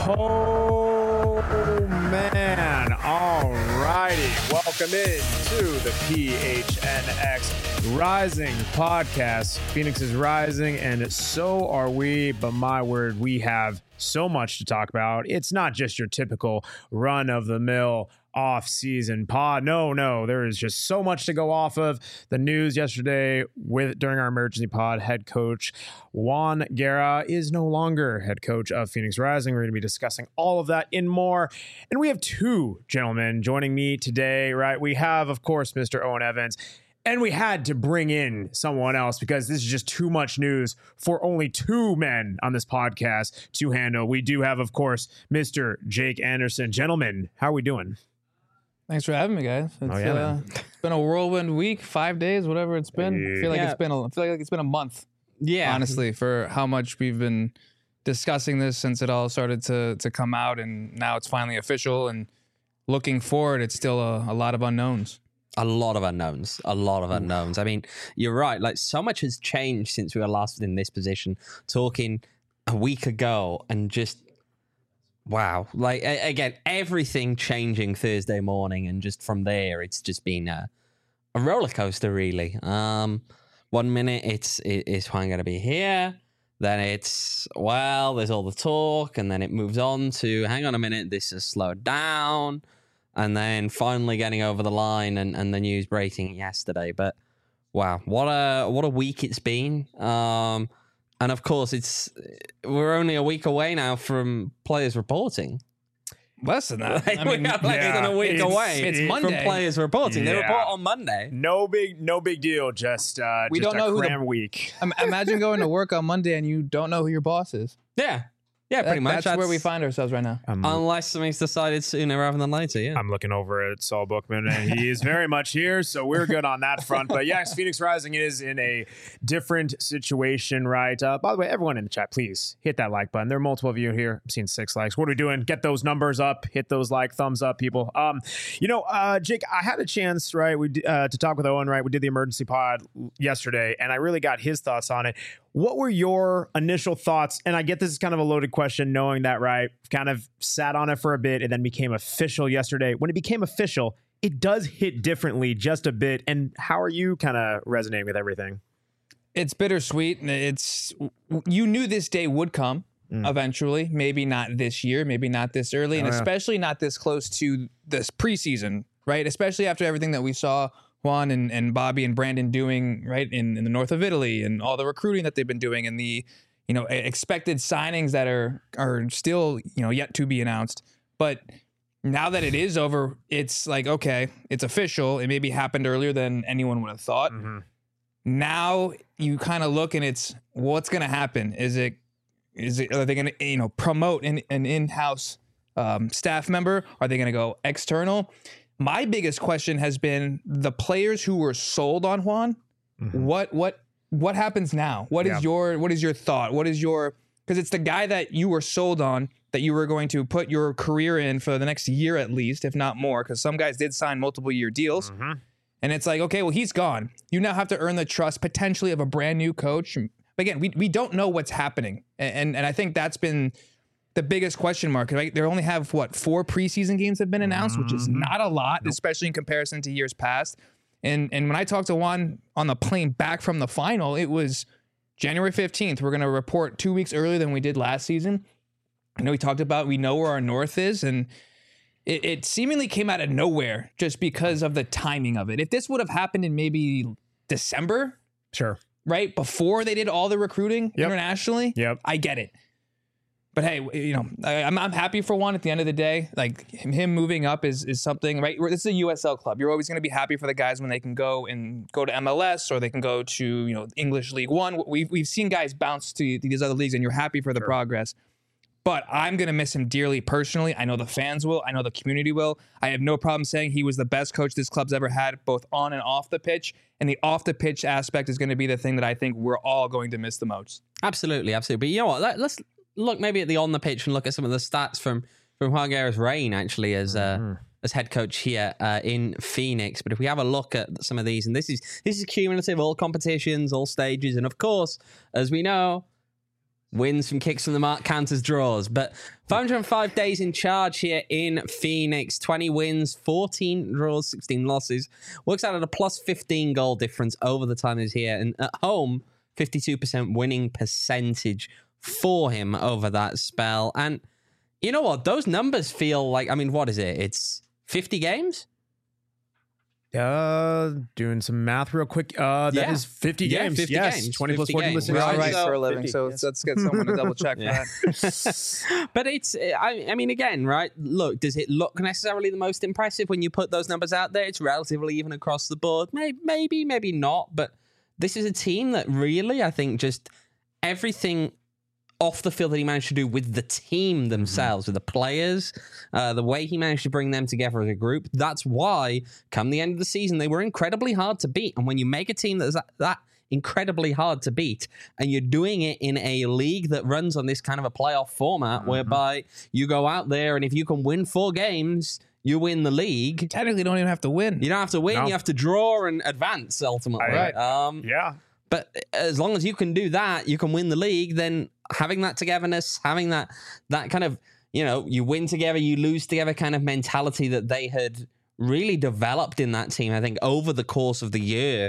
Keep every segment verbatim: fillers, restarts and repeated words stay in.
Oh, man. All righty. Welcome in to the P H N X Rising podcast. Phoenix is rising, and so are we. But my word, we have so much to talk about. It's not just your typical run-of-the-mill off-season pod. No, no, there is just so much to go off of. The news yesterday with during our emergency pod, head coach Juan Guerra is no longer head coach of Phoenix Rising. We're going to be discussing all of that and more. And we have two gentlemen joining me today, right? We have, of course, Mister Owen Evans. And we had to bring in someone else because this is just too much news for only two men on this podcast to handle. We do have, of course, Mister Jake Anderson. Gentlemen, how are we doing? Thanks for having me, guys. It's, oh, yeah, uh, it's been a whirlwind week, five days, whatever it's been. I feel like yeah. it's been a, I feel like it's been a month. Yeah, honestly, for how much we've been discussing this since it all started to to come out, and now it's finally official. And looking forward, it's still a, a lot of unknowns. A lot of unknowns, a lot of unknowns. I mean, you're right. Like, so much has changed since we were last in this position, talking a week ago, and just, wow. Like, a- again, everything changing Thursday morning, and just from there, it's just been a, a roller coaster, really. Um, one minute, it's, it, is Juan going to be here? Then it's, well, there's all the talk, and then it moves on to, hang on a minute, this has slowed down. And then finally getting over the line and, and the news breaking yesterday. But wow, what a what a week it's been. Um, and of course, it's we're only a week away now from players reporting. Less than that. Like, I mean, we're less yeah, than a week it's, away it's from Monday. players reporting. They Yeah. report on Monday. No big, no big deal. Just, uh, We just don't a know who the- cram week. im- imagine going to work on Monday and you don't know who your boss is. Yeah. Yeah, pretty That- much. That's, where we find ourselves right now. I'm, Unless something's decided sooner rather than later, yeah. I'm looking over at Saul Bookman, and he is very much here, so we're good on that front. But yes, Phoenix Rising is in a different situation, right? Uh, by the way, everyone in the chat, please hit that like button. There are multiple of you here. I'm seeing six likes. What are we doing? Get those numbers up. Hit those like thumbs up, people. Um, you know, uh, Jake, I had a chance, right, we d- uh, to talk with Owen, right? We did the emergency pod yesterday, and I really got his thoughts on it. What were your initial thoughts? And I get this is kind of a loaded question, knowing that, right, kind of sat on it for a bit and then became official yesterday. When it became official, it does hit differently just a bit. And how are you kind of resonating with everything? It's bittersweet. It's you knew this day would come Mm. eventually. Maybe not this year, maybe not this early, and Oh, yeah. especially not this close to this preseason, right? Especially after everything that we saw Juan and, and Bobby and Brandon doing, right, in, in the north of Italy, and all the recruiting that they've been doing, and the, you know, expected signings that are are still, you know, yet to be announced. But now that it is over, it's like, okay, it's official. It maybe happened earlier than anyone would have thought. Mm-hmm. Now you kind of look and it's what's going to happen. Is it, is it, are they going to, you know, promote an, an in-house um, staff member? Are they going to go external? My biggest question has been the players who were sold on Juan. Mm-hmm. What, what, what happens now? What Yeah. is your, what is your thought? What is your, because it's the guy that you were sold on, that you were going to put your career in for the next year at least, if not more, because some guys did sign multiple year deals. Mm-hmm. And it's like, okay, well, he's gone. You now have to earn the trust potentially of a brand new coach. But again, we, we don't know what's happening. And, and and I think that's been the biggest question mark. Right? They only have, what, four preseason games have been announced, which is not a lot, especially in comparison to years past. And and when I talked to Juan on the plane back from the final, it was January fifteenth. We're going to report two weeks earlier than we did last season. I know we talked about, we know where our north is, and it, it seemingly came out of nowhere just because of the timing of it. If this would have happened in maybe December, Sure. right, before they did all the recruiting Yep. internationally, Yep. I get it. But hey, you know, I, I'm I'm happy for Juan at the end of the day. Like him, him moving up is is something, right? This is a U S L club. You're always going to be happy for the guys when they can go and go to M L S, or they can go to, you know, English League One. We've we've seen guys bounce to these other leagues, and you're happy for the Sure. progress. But I'm going to miss him dearly personally. I know the fans will. I know the community will. I have no problem saying he was the best coach this club's ever had, both on and off the pitch. And the off the pitch aspect is going to be the thing that I think we're all going to miss the most. Absolutely, absolutely. But you know what? Let, let's look maybe at the on the pitch and look at some of the stats from from Juan Guerra's reign, actually, as uh, Mm-hmm. as head coach here uh, in Phoenix. But if we have a look at some of these, and this is this is cumulative, all competitions, all stages, and of course, as we know, Wins from kicks from the mark, counters, draws. But five hundred five days in charge here in Phoenix. twenty wins, fourteen draws, sixteen losses. Works out at a plus fifteen goal difference over the time he's here. And at home, fifty-two percent winning percentage for him over that spell. And you know what? Those numbers feel like, I mean, what is it? It's fifty games? Uh, doing some math real quick. Uh, that Yeah. is fifty Yeah, games. fifty yes, games, twenty plus fifty fourteen games. listeners. We're all Right, right so for a living, fifty, so yes. let's get someone to double check Yeah. that. But it's, I, I mean, again, right? Look, does it look necessarily the most impressive when you put those numbers out there? It's relatively even across the board. Maybe, maybe, maybe not. But this is a team that really, I think, just everything off the field that he managed to do with the team themselves, with the players, uh, the way he managed to bring them together as a group. That's why, come the end of the season, they were incredibly hard to beat. And when you make a team that's that, that incredibly hard to beat, and you're doing it in a league that runs on this kind of a playoff format, mm-hmm. whereby you go out there and if you can win four games, you win the league. You technically don't even have to win. You don't have to win. No. You have to draw and advance ultimately. Right. Um, Yeah. But as long as you can do that, you can win the league. Then having that togetherness, having that that kind of, you know, you win together, you lose together kind of mentality that they had really developed in that team, I think, over the course of the year.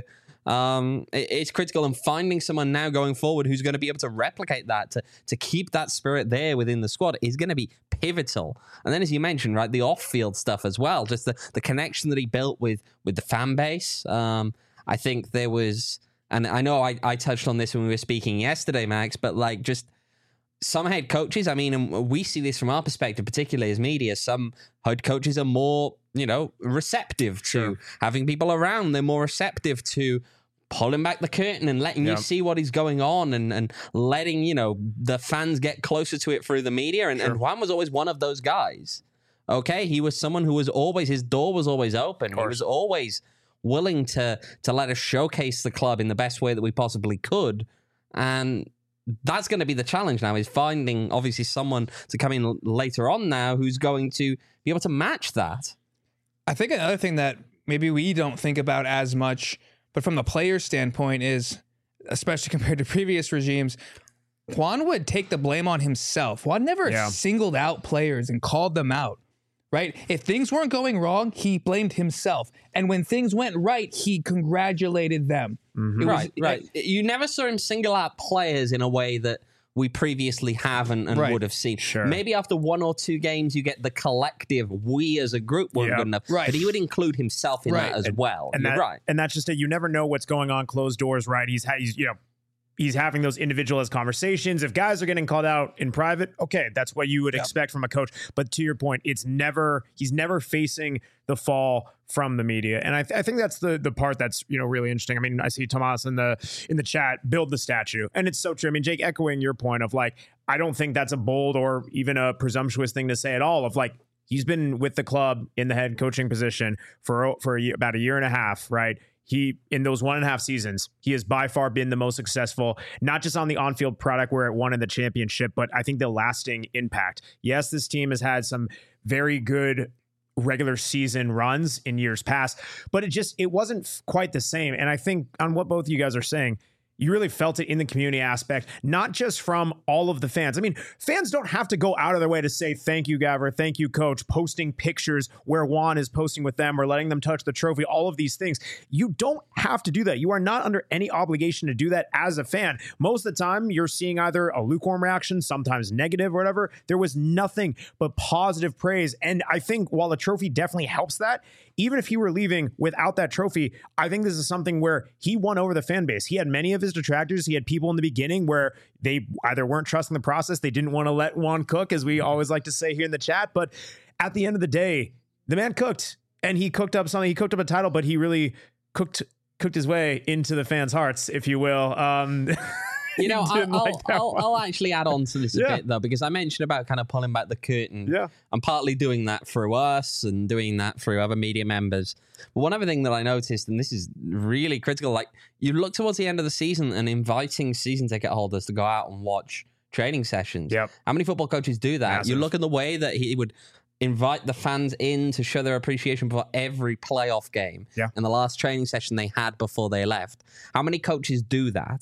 Um, it, it's critical, and finding someone now going forward who's going to be able to replicate that, to to keep that spirit there within the squad is going to be pivotal. And then, as you mentioned, right, the off-field stuff as well, just the, the connection that he built with with the fan base. Um, I think there was... And I know I, I touched on this when we were speaking yesterday, Max, but like just some head coaches, I mean, and we see this from our perspective, particularly as media, some head coaches are more, you know, receptive to Sure. having people around. They're more receptive to pulling back the curtain and letting Yeah. you see what is going on and, and letting, you know, the fans get closer to it through the media. And, Sure. and Juan was always one of those guys. Okay. He was someone who was always, his door was always open. He was always willing to to let us showcase the club in the best way that we possibly could. And that's going to be the challenge now, is finding obviously someone to come in l- later on now who's going to be able to match that. I think another thing that maybe we don't think about as much, but from the player standpoint is, especially compared to previous regimes, Juan would take the blame on himself. Juan never Yeah. singled out players and called them out, right? If things weren't going wrong, he blamed himself. And when things went right, he congratulated them. Mm-hmm. It was- Right, right. You never saw him single out players in a way that we previously have and, and Right. would have seen. Sure. Maybe after one or two games, you get the collective, we as a group weren't Yeah. good enough. Right. But he would include himself in Right. that as well. And You're that, right. and that's just it. You never know what's going on closed doors, right? He's, ha- he's, you know, he's having those individualized conversations. If guys are getting called out in private, okay, that's what you would Yeah. expect from a coach. But to your point, it's never, he's never facing the fall from the media. And I, th- I think that's the the part that's, you know, really interesting. I mean, I see Tomas in the in the chat, build the statue. And it's so true. I mean, Jake, echoing your point of like, I don't think that's a bold or even a presumptuous thing to say at all, of like, he's been with the club in the head coaching position for, for a year, about a year and a half, right? He, in those one and a half seasons, he has by far been the most successful, not just on the on-field product where it won in the championship, but I think the lasting impact. Yes, this team has had some very good regular season runs in years past, but it just, it wasn't quite the same. And I think on what both of you guys are saying, you really felt it in the community aspect, not just from all of the fans. I mean, fans don't have to go out of their way to say, thank you, Gavver, thank you, coach, posting pictures where Juan is posting with them or letting them touch the trophy, all of these things. You don't have to do that. You are not under any obligation to do that as a fan. Most of the time, you're seeing either a lukewarm reaction, sometimes negative or whatever. There was nothing but positive praise. And I think while the trophy definitely helps that, even if he were leaving without that trophy, I think this is something where he won over the fan base. He had many of his detractors. He had people in the beginning where they either weren't trusting the process, they didn't want to let Juan cook, as we always like to say here in the chat. But at the end of the day, the man cooked, and he cooked up something. He cooked up a title, but he really cooked cooked his way into the fans' hearts, if you will. Um, You know, he didn't I'll, like that I'll, one. I'll actually add on to this a Yeah. bit, though, because I mentioned about kind of pulling back the curtain. Yeah. I'm partly doing that through us and doing that through other media members. But one other thing that I noticed, and this is really critical, like you look towards the end of the season and inviting season ticket holders to go out and watch training sessions. Yep. How many football coaches do that? Massive. You look at the way that he would invite the fans in to show their appreciation for every playoff game Yeah. and the last training session they had before they left. How many coaches do that?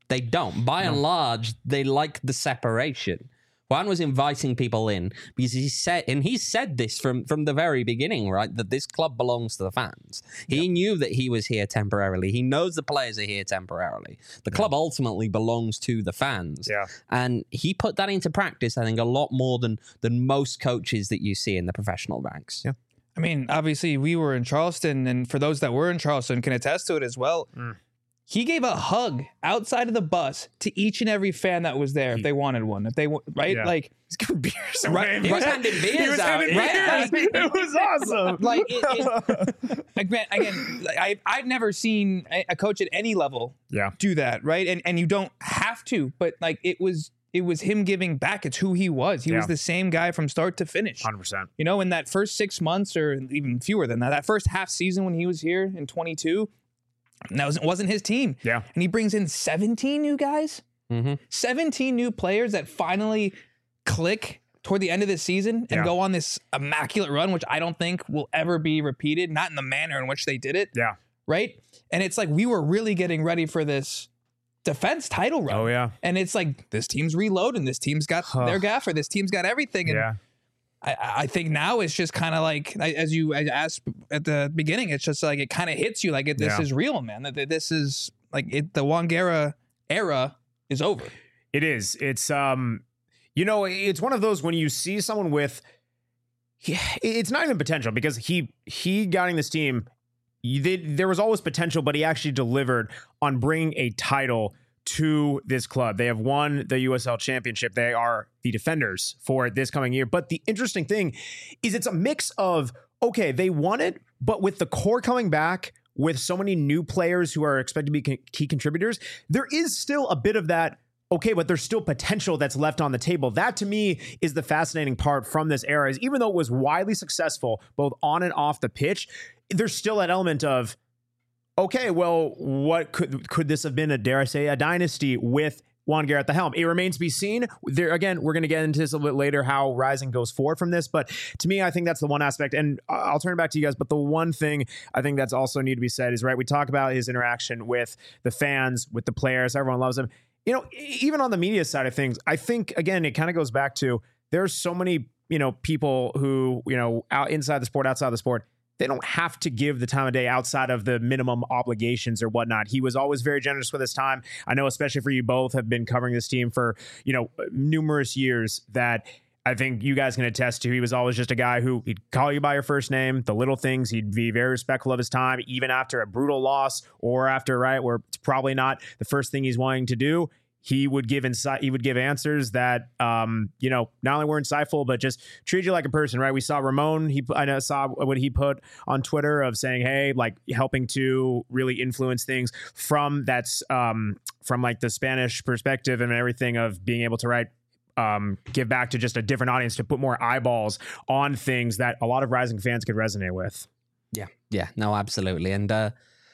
They don't. By no. and large, they like the separation. Juan was inviting people in because he said, and he said this from, from the very beginning, right, that this club belongs to the fans. He yep. knew that he was here temporarily. He knows the players are here temporarily. The club yeah. ultimately belongs to the fans. Yeah. And he put that into practice, I think, a lot more than, than most coaches that you see in the professional ranks. Yeah. I mean, obviously, we were in Charleston, and for those that were in Charleston can attest to it as well. Mm. He gave a hug outside of the bus to each and every fan that was there if they wanted one. If they right, yeah. like he's giving beers away. Right, he was handing beers he was out. Handing right? beers. It was awesome. Like, it, it, like man, again, like, I I've never seen a coach at any level yeah. do that, right? And and you don't have to, but like it was it was him giving back. It's who he was. He yeah. was the same guy from start to finish. one hundred percent. You know, in that first six months or even fewer than that, that first half season when he was here in twenty-two. And that was, wasn't his team. Yeah. And he brings in seventeen new guys, mm-hmm. seventeen new players that finally click toward the end of the season and yeah. go on this immaculate run, which I don't think will ever be repeated, not in the manner in which they did it. Yeah. Right. And it's like we were really getting ready for this defense title run. Oh, yeah. And it's like this team's reloading. This team's got huh. their gaffer. This team's got everything. And yeah. I, I think now it's just kind of like, as you asked at the beginning, it's just like it kind of hits you like it, this yeah. is real, man. That this is like it. The Juan Guerra era is over. It is. It's um, you know, it's one of those when you see someone with, yeah, it's not even potential because he he got in this team. They, there was always potential, but he actually delivered on bringing a title to this club. They have won the U S L Championship. They are the defenders for this coming year. But the interesting thing is it's a mix of, okay, they won it, but with the core coming back, with so many new players who are expected to be key contributors, there is still a bit of that, okay, but there's still potential that's left on the table. That to me is the fascinating part from this era, is even though it was widely successful, both on and off the pitch, there's still an element of, okay, well, what could could this have been? A dare I say a dynasty with Juan Guerra at the helm? It remains to be seen. There again, we're going to get into this a little bit later how Rising goes forward from this. But to me, I think that's the one aspect. And I'll turn it back to you guys. But the one thing I think that's also need to be said is, right, we talk about his interaction with the fans, with the players. Everyone loves him. You know, even on the media side of things, I think again, it kind of goes back to there's so many you know people who you know out inside the sport, outside the sport. They don't have to give the time of day outside of the minimum obligations or whatnot. He was always very generous with his time. I know, especially for you both, have been covering this team for, you know, numerous years, that I think you guys can attest to. He was always just a guy who he'd call you by your first name, the little things. He'd be very respectful of his time, even after a brutal loss or after, right, where it's probably not the first thing he's wanting to do. He would give insight. He would give answers that, um, you know, not only were insightful, but just treat you like a person, right? We saw Ramon. He, I know, saw what he put on Twitter of saying, "Hey, like helping to really influence things from that's um, from like the Spanish perspective and everything of being able to write, um, give back to just a different audience to put more eyeballs on things that a lot of Rising fans could resonate with." Yeah, yeah, no, absolutely, and. uh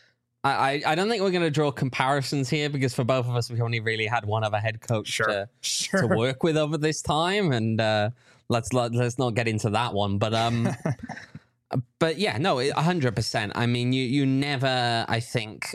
I, I don't think we're going to draw comparisons here because for both of us, we only really had one other head coach sure. to, Sure. to work with over this time. And uh, let's let, let's not get into that one. But um, but yeah, no, one hundred percent. I mean, you you never, I think,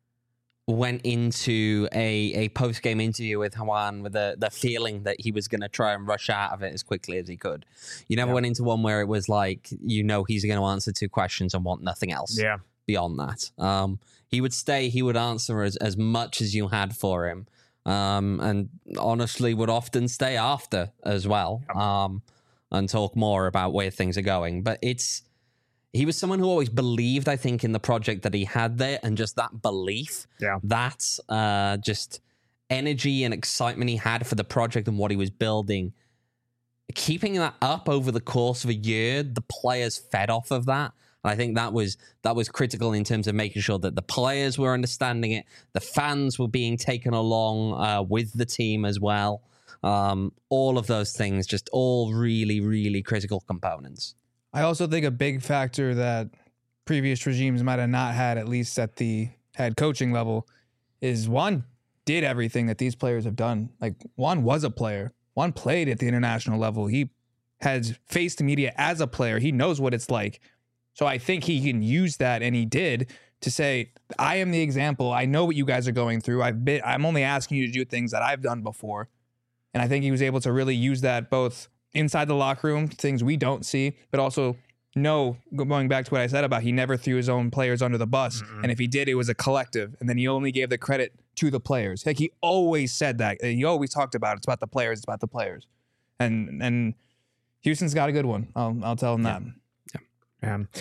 went into a, a post-game interview with Juan with the, the feeling that he was going to try and rush out of it as quickly as he could. You never yeah. went into one where it was like, you know, he's going to answer two questions and want nothing else. Yeah. Beyond that, um, he would stay, he would answer as, as much as you had for him, um, and honestly would often stay after as well, um, and talk more about where things are going. But it's, he was someone who always believed, I think, in the project that he had there, and just that belief, yeah. that uh, just energy and excitement he had for the project and what he was building, keeping that up over the course of a year, the players fed off of that. I think that was that was critical in terms of making sure that the players were understanding it, the fans were being taken along uh, with the team as well. Um, all of those things, just all really, really critical components. I also think a big factor that previous regimes might have not had, at least at the head coaching level, is Juan did everything that these players have done. Like, Juan was a player. Juan played at the international level. He has faced the media as a player. He knows what it's like. So I think he can use that, and he did, to say, I am the example. I know what you guys are going through. I've been, I'm only asking you to do things that I've done before. And I think he was able to really use that both inside the locker room, things we don't see, but also know, going back to what I said about he never threw his own players under the bus. Mm-hmm. And if he did, it was a collective. And then he only gave the credit to the players. Like he always said that. He always talked about it. It's about the players. It's about the players. And and Houston's got a good one. I'll I'll tell him yeah. that. Yeah. Um,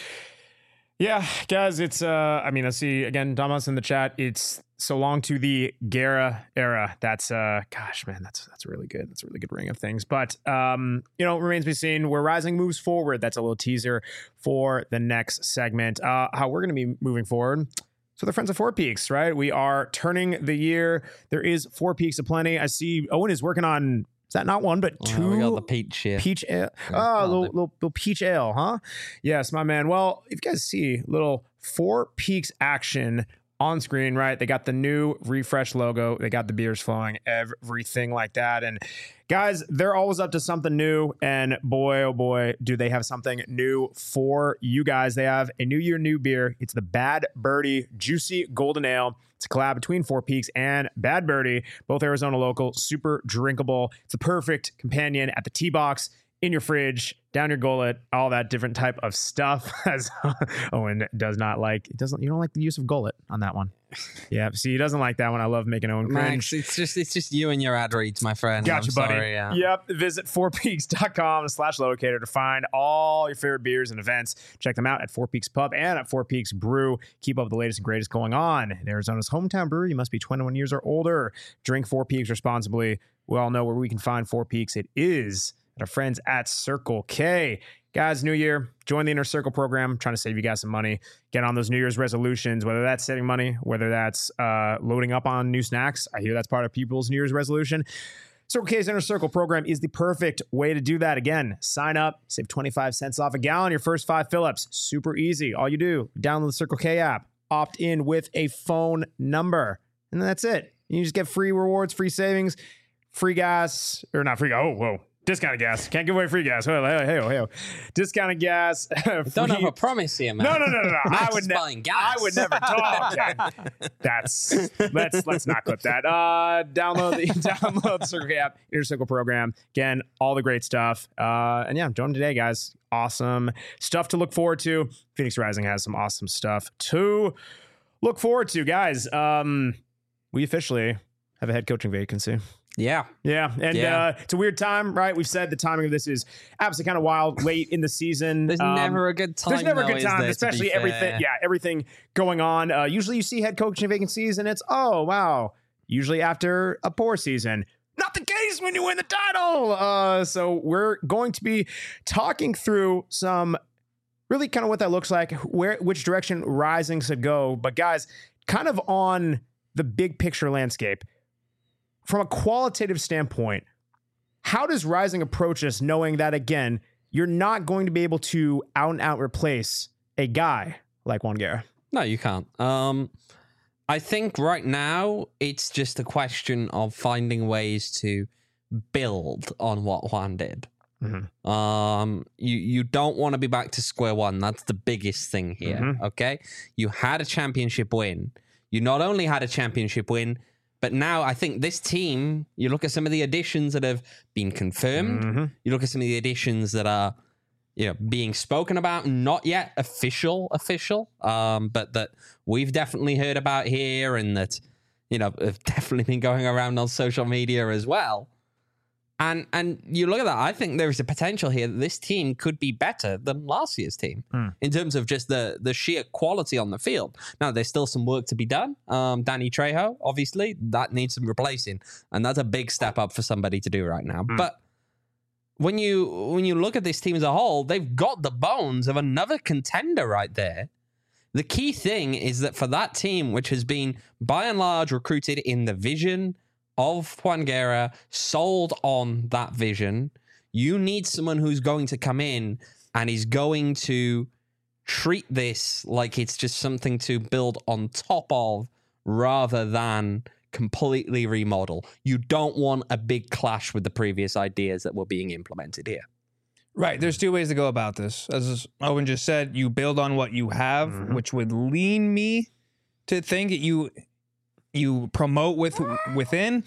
yeah, guys, it's, uh, I mean, I see, again, Damas in the chat, it's so long to the Guerra era. That's, uh, gosh, man, that's that's really good. That's a really good ring of things. But, um, you know, it remains to be seen where Rising moves forward. That's a little teaser for the next segment. Uh, how we're going to be moving forward. So the friends of Four Peaks, right? We are turning the year. There is Four Peaks aplenty. I see Owen is working on, is that not one, but two? Well, we got the peach here. Peach ale. Oh, little, little, little peach ale, huh? Yes, my man. Well, if you guys see little Four Peaks action on screen, right? They got the new refresh logo. They got the beers flowing, everything like that. And guys, they're always up to something new. And boy, oh boy, do they have something new for you guys. They have a new year, new beer. It's the Bad Birdie Juicy Golden Ale. It's a collab between Four Peaks and Bad Birdie, both Arizona local, super drinkable. It's the perfect companion at the tee box, in your fridge, down your gullet, all that different type of stuff. As Owen does not like, it doesn't. You don't like the use of gullet on that one. Yeah, see, he doesn't like that one. I love making Owen cringe. Max, it's just it's just you and your ad reads, my friend. Gotcha, I'm buddy. Sorry, yeah. Yep. Visit four peaks dot com slash locator to find all your favorite beers and events. Check them out at Four Peaks Pub and at Four Peaks Brew. Keep up with the latest and greatest going on. In Arizona's hometown brewery, you must be twenty-one years or older. Drink Four Peaks responsibly. We all know where we can find Four Peaks. It is at our friends at Circle K. Guys, new year, join the Inner Circle program. I'm trying to save you guys some money. Get on those New Year's resolutions, whether that's saving money, whether that's uh, loading up on new snacks. I hear that's part of people's New Year's resolution. Circle K's Inner Circle program is the perfect way to do that. Again, sign up, save twenty-five cents off a gallon, your first five fill-ups. Super easy. All you do, download the Circle K app, opt in with a phone number, and then that's it. You just get free rewards, free savings, free gas, or not free, oh, whoa. Discounted gas. Can't give away free gas. Hey, hey, hey, hey. Discounted gas. Don't have a promise here, man. No, no, no, no, no. I would never. I would never talk. That's let's let's not clip that. Uh, download the download the Circle K app, Inner Circle program. Again, all the great stuff. Uh, and yeah, join them today, guys. Awesome stuff to look forward to. Phoenix Rising has some awesome stuff to look forward to, guys. Um, we officially have a head coaching vacancy. Yeah. Yeah. And yeah. Uh, it's a weird time, right? We've said the timing of this is absolutely kind of wild, late in the season. There's um, never a good time. There's never though, a good time, there, especially everything. Yeah, everything going on. Uh, usually you see head coaching vacancies and it's, oh, wow. Usually after a poor season. Not the case when you win the title. Uh, so we're going to be talking through some really kind of what that looks like, where which direction Rising should go. But guys, kind of on the big picture landscape, from a qualitative standpoint, how does Rising approach this, knowing that, again, you're not going to be able to out and out replace a guy like Juan Guerra? No, you can't. Um, I think right now it's just a question of finding ways to build on what Juan did. Mm-hmm. Um, you you don't want to be back to square one. That's the biggest thing here. Mm-hmm. Okay, you had a championship win. You not only had a championship win, but now I think this team, you look at some of the additions that have been confirmed, mm-hmm. you look at some of the additions that are, you know, being spoken about, not yet official, official, um, but that we've definitely heard about here and that, you know, have definitely been going around on social media as well. And and you look at that, I think there is a potential here that this team could be better than last year's team mm. in terms of just the, the sheer quality on the field. Now, there's still some work to be done. Um, Danny Trejo, obviously, that needs some replacing. And that's a big step up for somebody to do right now. Mm. But when you when you look at this team as a whole, they've got the bones of another contender right there. The key thing is that for that team, which has been by and large recruited in the vision of Juan Guerra, sold on that vision, you need someone who's going to come in and is going to treat this like it's just something to build on top of rather than completely remodel. You don't want a big clash with the previous ideas that were being implemented here. Right. There's two ways to go about this. As Owen just said, you build on what you have, mm-hmm. which would lean me to think that you you promote with within,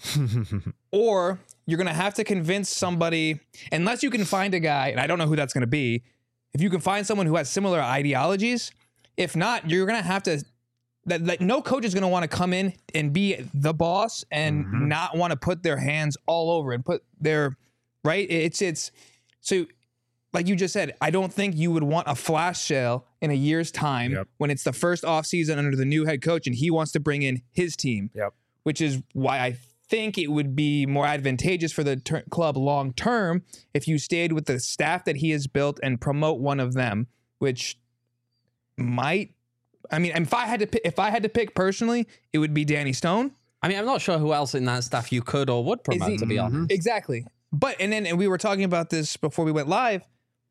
or you're going to have to convince somebody, unless you can find a guy, and I don't know who that's going to be, if you can find someone who has similar ideologies. If not, you're going to have to, that, that no coach is going to want to come in and be the boss and mm-hmm. not want to put their hands all over and put their, right? It's, it's, so like you just said, I don't think you would want a flash sale in a year's time yep. when it's the first offseason under the new head coach and he wants to bring in his team, yep. which is why I think it would be more advantageous for the ter- club long term if you stayed with the staff that he has built and promote one of them, which might, I mean, if I had to pick, if I had to pick personally, it would be Danny Stone. I mean, I'm not sure who else in that staff you could or would promote, he, to be honest. Exactly. But, and then and we were talking about this before we went live.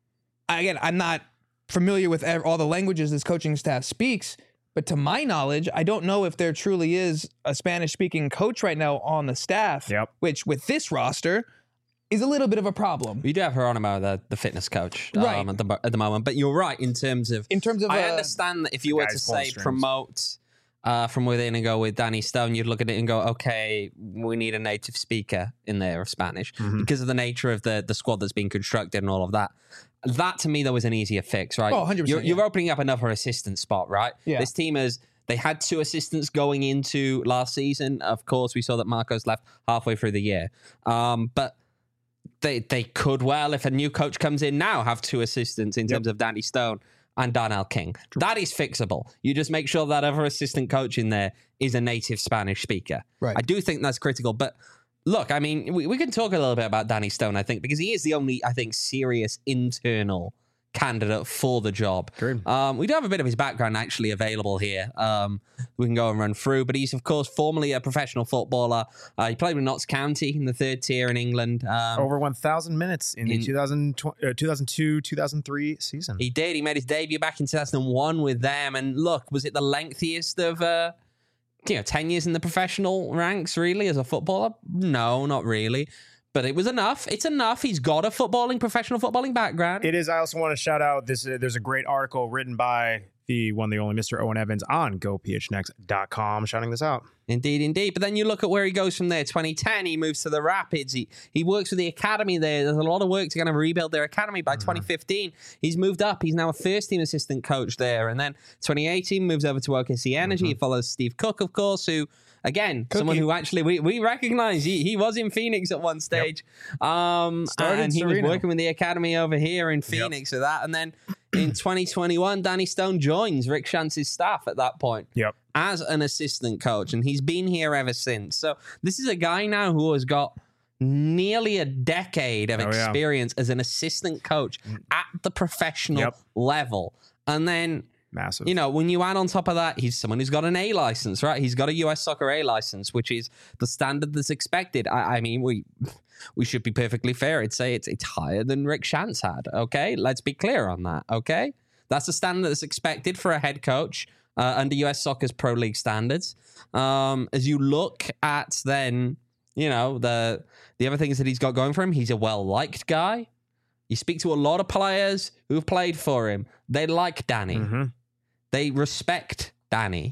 Again, I'm not familiar with all the languages this coaching staff speaks, but to my knowledge, I don't know if there truly is a Spanish-speaking coach right now on the staff, yep. which with this roster is a little bit of a problem. We do have Geronimo, the, the fitness coach, right. um, at, the, at the moment, but you're right in terms of... In terms of... I uh, understand that if you were to say promote uh, from within and go with Danny Stone, you'd look at it and go, okay, we need a native speaker in there of Spanish mm-hmm. because of the nature of the, the squad that's being constructed and all of that. That, to me, though, is an easier fix, right? Oh, one hundred percent. You're, yeah. you're opening up another assistant spot, right? Yeah. This team is... They had two assistants going into last season. Of course, we saw that Marcos left halfway through the year. Um, but they they could well, if a new coach comes in now, have two assistants in yep. terms of Danny Stone and Darnell King. True. That is fixable. You just make sure that other assistant coach in there is a native Spanish speaker. Right. I do think that's critical. But look, I mean, we, we can talk a little bit about Danny Stone, I think, because he is the only, I think, serious internal candidate for the job. Um, we do have a bit of his background actually available here. Um, we can go and run through, but he's of course formerly a professional footballer. Uh, he played with Notts County in the third tier in England. Um, Over one thousand minutes in, in the two thousand two, two thousand three season. He did. He made his debut back in two thousand one with them. And look, was it the lengthiest of, uh, you know, ten years in the professional ranks really as a footballer? No, not really. But it was enough. It's enough. He's got a footballing, professional footballing background. It is. I also want to shout out this. Uh, there's a great article written by the one, the only Mister Owen Evans on go p h n x dot com, shouting this out. Indeed, indeed. But then you look at where he goes from there. twenty ten, he moves to the Rapids. He he works with the academy there. There's a lot of work to kind of rebuild their academy. By mm-hmm. twenty fifteen, he's moved up. He's now a first-team assistant coach there. And then twenty eighteen moves over to O K C Energy. Mm-hmm. He follows Steve Cook, of course, who... Again, Cookie. someone who actually we, we recognize he, he was in Phoenix at one stage. Yep. Um, and he Sereno. was working with the academy over here in Phoenix yep. for that. And then in twenty twenty-one, Danny Stone joins Rick Shantz's staff at that point yep. as an assistant coach. And he's been here ever since. So this is a guy now who has got nearly a decade of oh, experience yeah. as an assistant coach at the professional yep. level. And then... Massive. You know, when you add on top of that, he's someone who's got an A license, right? He's got a U S Soccer A license, which is the standard that's expected. I, I mean, we we should be perfectly fair. I'd say it's it's higher than Rick Shantz had. Okay, let's be clear on that. Okay, that's the standard that's expected for a head coach uh, under U S Soccer's Pro League standards. Um, as you look at then, you know, the the other things that he's got going for him, he's a well liked guy. You speak to a lot of players who've played for him. They like Danny. Mm-hmm. They respect Danny.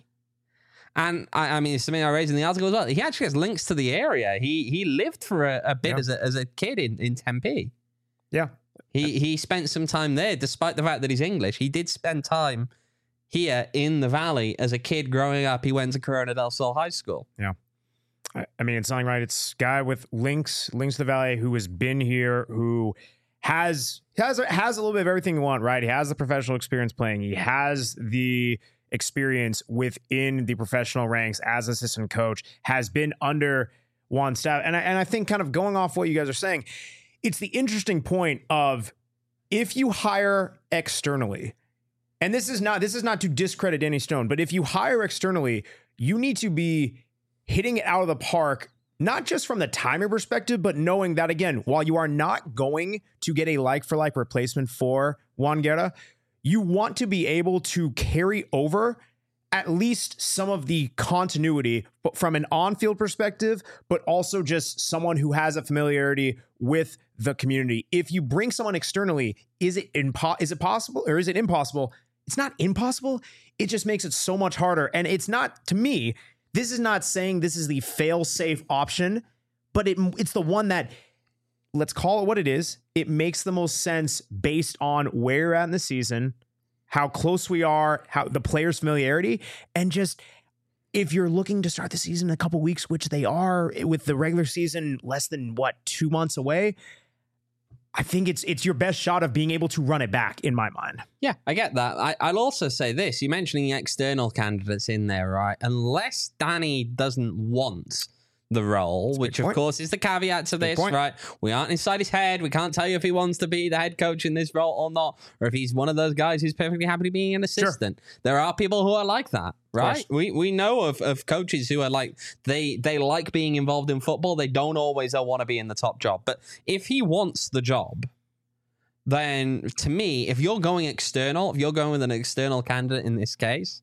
And, I, I mean, it's something I raised in the article as well. He actually has links to the area. He he lived for a, a bit yeah. as, a, as a kid in, in Tempe. Yeah. He he spent some time there, despite the fact that he's English. He did spend time here in the Valley as a kid growing up. He went to Corona del Sol High School. Yeah. I, I mean, it's something right. It's a guy with links, links to the Valley who has been here, who... Has has has a little bit of everything you want, right? He has the professional experience playing. He has the experience within the professional ranks as assistant coach. Has been under Juan staff, and I, and I think kind of going off what you guys are saying, it's the interesting point of if you hire externally, and this is not this is not to discredit Danny Stone, but if you hire externally, you need to be hitting it out of the park. Not just from the timing perspective, but knowing that, again, while you are not going to get a like-for-like replacement for Juan Guerra, you want to be able to carry over at least some of the continuity, but from an on-field perspective, but also just someone who has a familiarity with the community. If you bring someone externally, is it impo- is it possible or is it impossible? It's not impossible. It just makes it so much harder. And it's not, to me, this is not saying this is the fail-safe option, but it, it's the one that, let's call it what it is. It makes the most sense based on where you're at in the season, how close we are, how the players' familiarity, and just if you're looking to start the season in a couple weeks, which they are with the regular season less than what, two months away, I think it's it's your best shot of being able to run it back in my mind. Yeah, I get that. I, I'll also say this. You're mentioning external candidates in there, right? Unless Danny doesn't want the role, which of course is the caveat to this, right? We aren't inside his head. We can't tell you if he wants to be the head coach in this role or not, or if he's one of those guys who's perfectly happy being an assistant. Sure. There are people who are like that, right? We we know of, of coaches who are like, they they like being involved in football. They don't always want to be in the top job. But if he wants the job, then to me, if you're going external, if you're going with an external candidate in this case,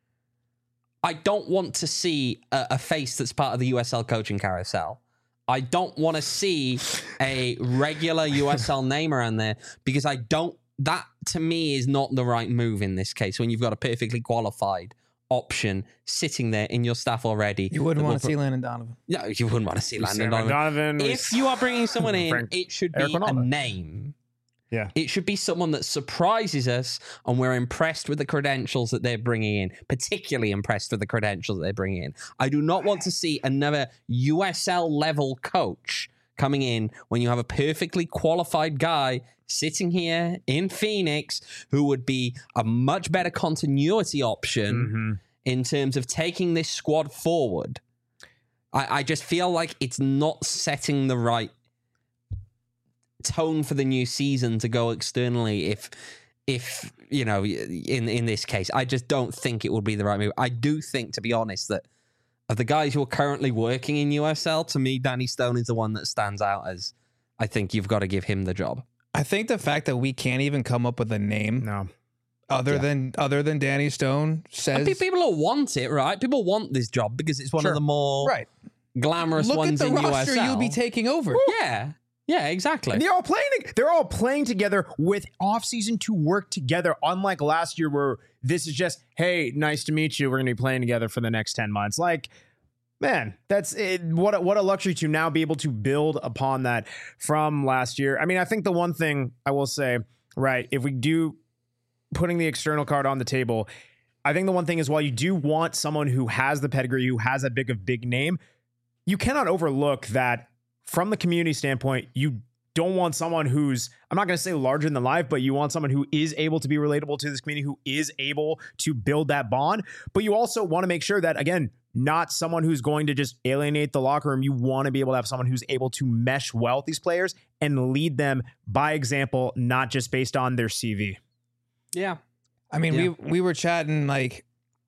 I don't want to see a, a face that's part of the U S L coaching carousel. I don't want to see a regular U S L name around there because I don't, that to me is not the right move in this case when you've got a perfectly qualified option sitting there in your staff already. You wouldn't want to see Landon Donovan. No, you wouldn't want to see Landon Donovan. Donovan. If you are bringing someone in, Frank, it should be a name. Yeah. It should be someone that surprises us and we're impressed with the credentials that they're bringing in, particularly impressed with the credentials that they're bringing in. I do not want to see another U S L level coach coming in when you have a perfectly qualified guy sitting here in Phoenix who would be a much better continuity option mm-hmm. in terms of taking this squad forward. I, I just feel like it's not setting the right tone for the new season to go externally if if you know in in this case. I just don't think it would be the right move. I do think, to be honest, that of the guys who are currently working in U S L, to me Danny Stone is the one that stands out as I think you've got to give him the job. I think the fact that we can't even come up with a name no other yeah. than other than Danny Stone says, and people will want it, right? People want this job because it's one sure. of the more right. glamorous Look ones at the in roster U S L. you'll be taking over. Yeah. Yeah, exactly. And they're all playing. They're all playing together with offseason to work together. Unlike last year, where this is just, hey, nice to meet you. We're going to be playing together for the next ten months. Like, man, that's it. What a, what a luxury to now be able to build upon that from last year. I mean, I think the one thing I will say, right, if we do putting the external card on the table, I think the one thing is while you do want someone who has the pedigree, who has a big of big name, you cannot overlook that. From the community standpoint, you don't want someone who's, I'm not going to say larger than life, but you want someone who is able to be relatable to this community, who is able to build that bond. But you also want to make sure that, again, not someone who's going to just alienate the locker room. You want to be able to have someone who's able to mesh well with these players and lead them by example, not just based on their C V. Yeah. I mean, yeah. we we were chatting like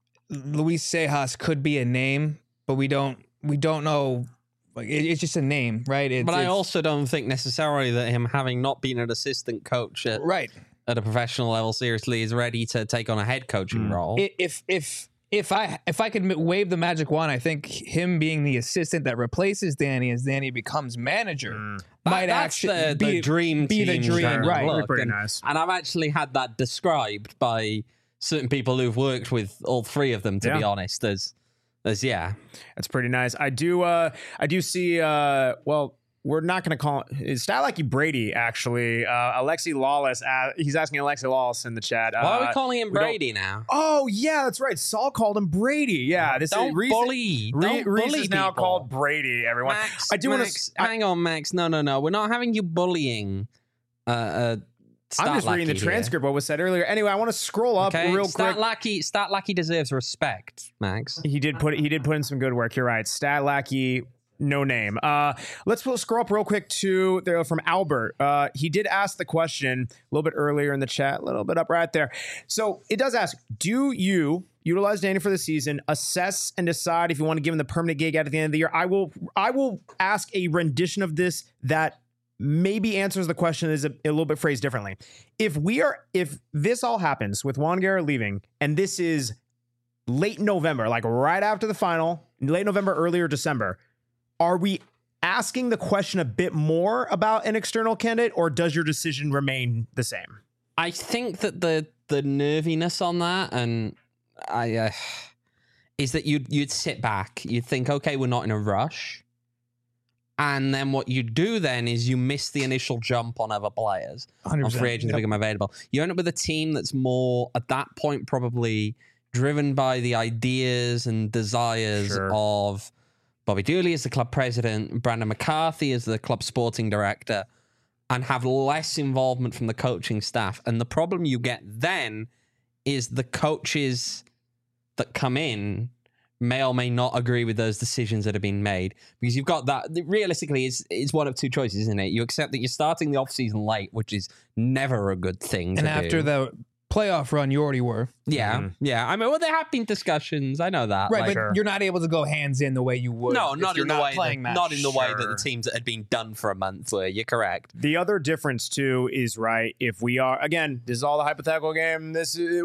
Luis Sejas could be a name, but we don't we don't know. Like it, it's just a name, right? It's, but I it's, also don't think necessarily that him having not been an assistant coach at, right. at a professional level seriously is ready to take on a head coaching mm. role. If if if I if I could wave the magic wand, I think him being the assistant that replaces Danny as Danny becomes manager mm. might that, actually the, be the dream be the dream, kind of right? Look. Pretty and, nice. And I've actually had that described by certain people who've worked with all three of them. To yeah. be honest, as As, yeah, that's pretty nice. I do, uh, I do see. Uh, well, we're not going to call it. It's Stylacky Brady actually. Uh, Alexi Lawless. Uh, he's asking Alexi Lawless in the chat. Uh, Why are we calling him Brady now? Oh yeah, that's right. Saul called him Brady. Yeah, this don't is Reese, bully. Re- Don't Reese bully is now people. called Brady. Everyone, Max, I do want Max, to hang on, Max. No, no, no. We're not having you bullying. Uh, uh I'm just reading the transcript. What was said earlier. Anyway, I want to scroll up okay. real Stat quick. Lackey, Stat Lackey deserves respect, Max. He did put he did put in some good work. You're right. Stat Lackey, no name. Uh, let's scroll up real quick to there from Albert. Uh, he did ask the question a little bit earlier in the chat, a little bit up right there. So it does ask: do you utilize Danny for the season, assess and decide if you want to give him the permanent gig at the end of the year? I will. I will ask a rendition of this that maybe answers the question is a, a little bit phrased differently. If we are, if this all happens with Juan Guerra leaving, and this is late November, like right after the final, late November, earlier December, are we asking the question a bit more about an external candidate, or does your decision remain the same? I think that the the nerviness on that, and I uh, is that you'd you'd sit back, you'd think, okay, we're not in a rush, and then what you do then is you miss the initial jump on other players, one hundred percent. on free agents Yep. become available. You end up with a team that's more at that point probably driven by the ideas and desires Sure. of Bobby Dooley as the club president, Brandon McCarthy as the club sporting director, and have less involvement from the coaching staff. And the problem you get then is the coaches that come in may or may not agree with those decisions that have been made, because you've got that realistically it's, it's one of two choices, isn't it? You accept that you're starting the offseason late, which is never a good thing to And after do. the playoff run, you already were. yeah, Mhm. yeah. I mean, well, there have been discussions. I know that. Right, like- but Sure. you're not able to go hands in the way you would. no, if not you're in the not way playing that, that. not in the way that Sure. the teams that had been done for a month were. You're correct. The other difference too is, right, if we are, again, this is all the hypothetical game. This is,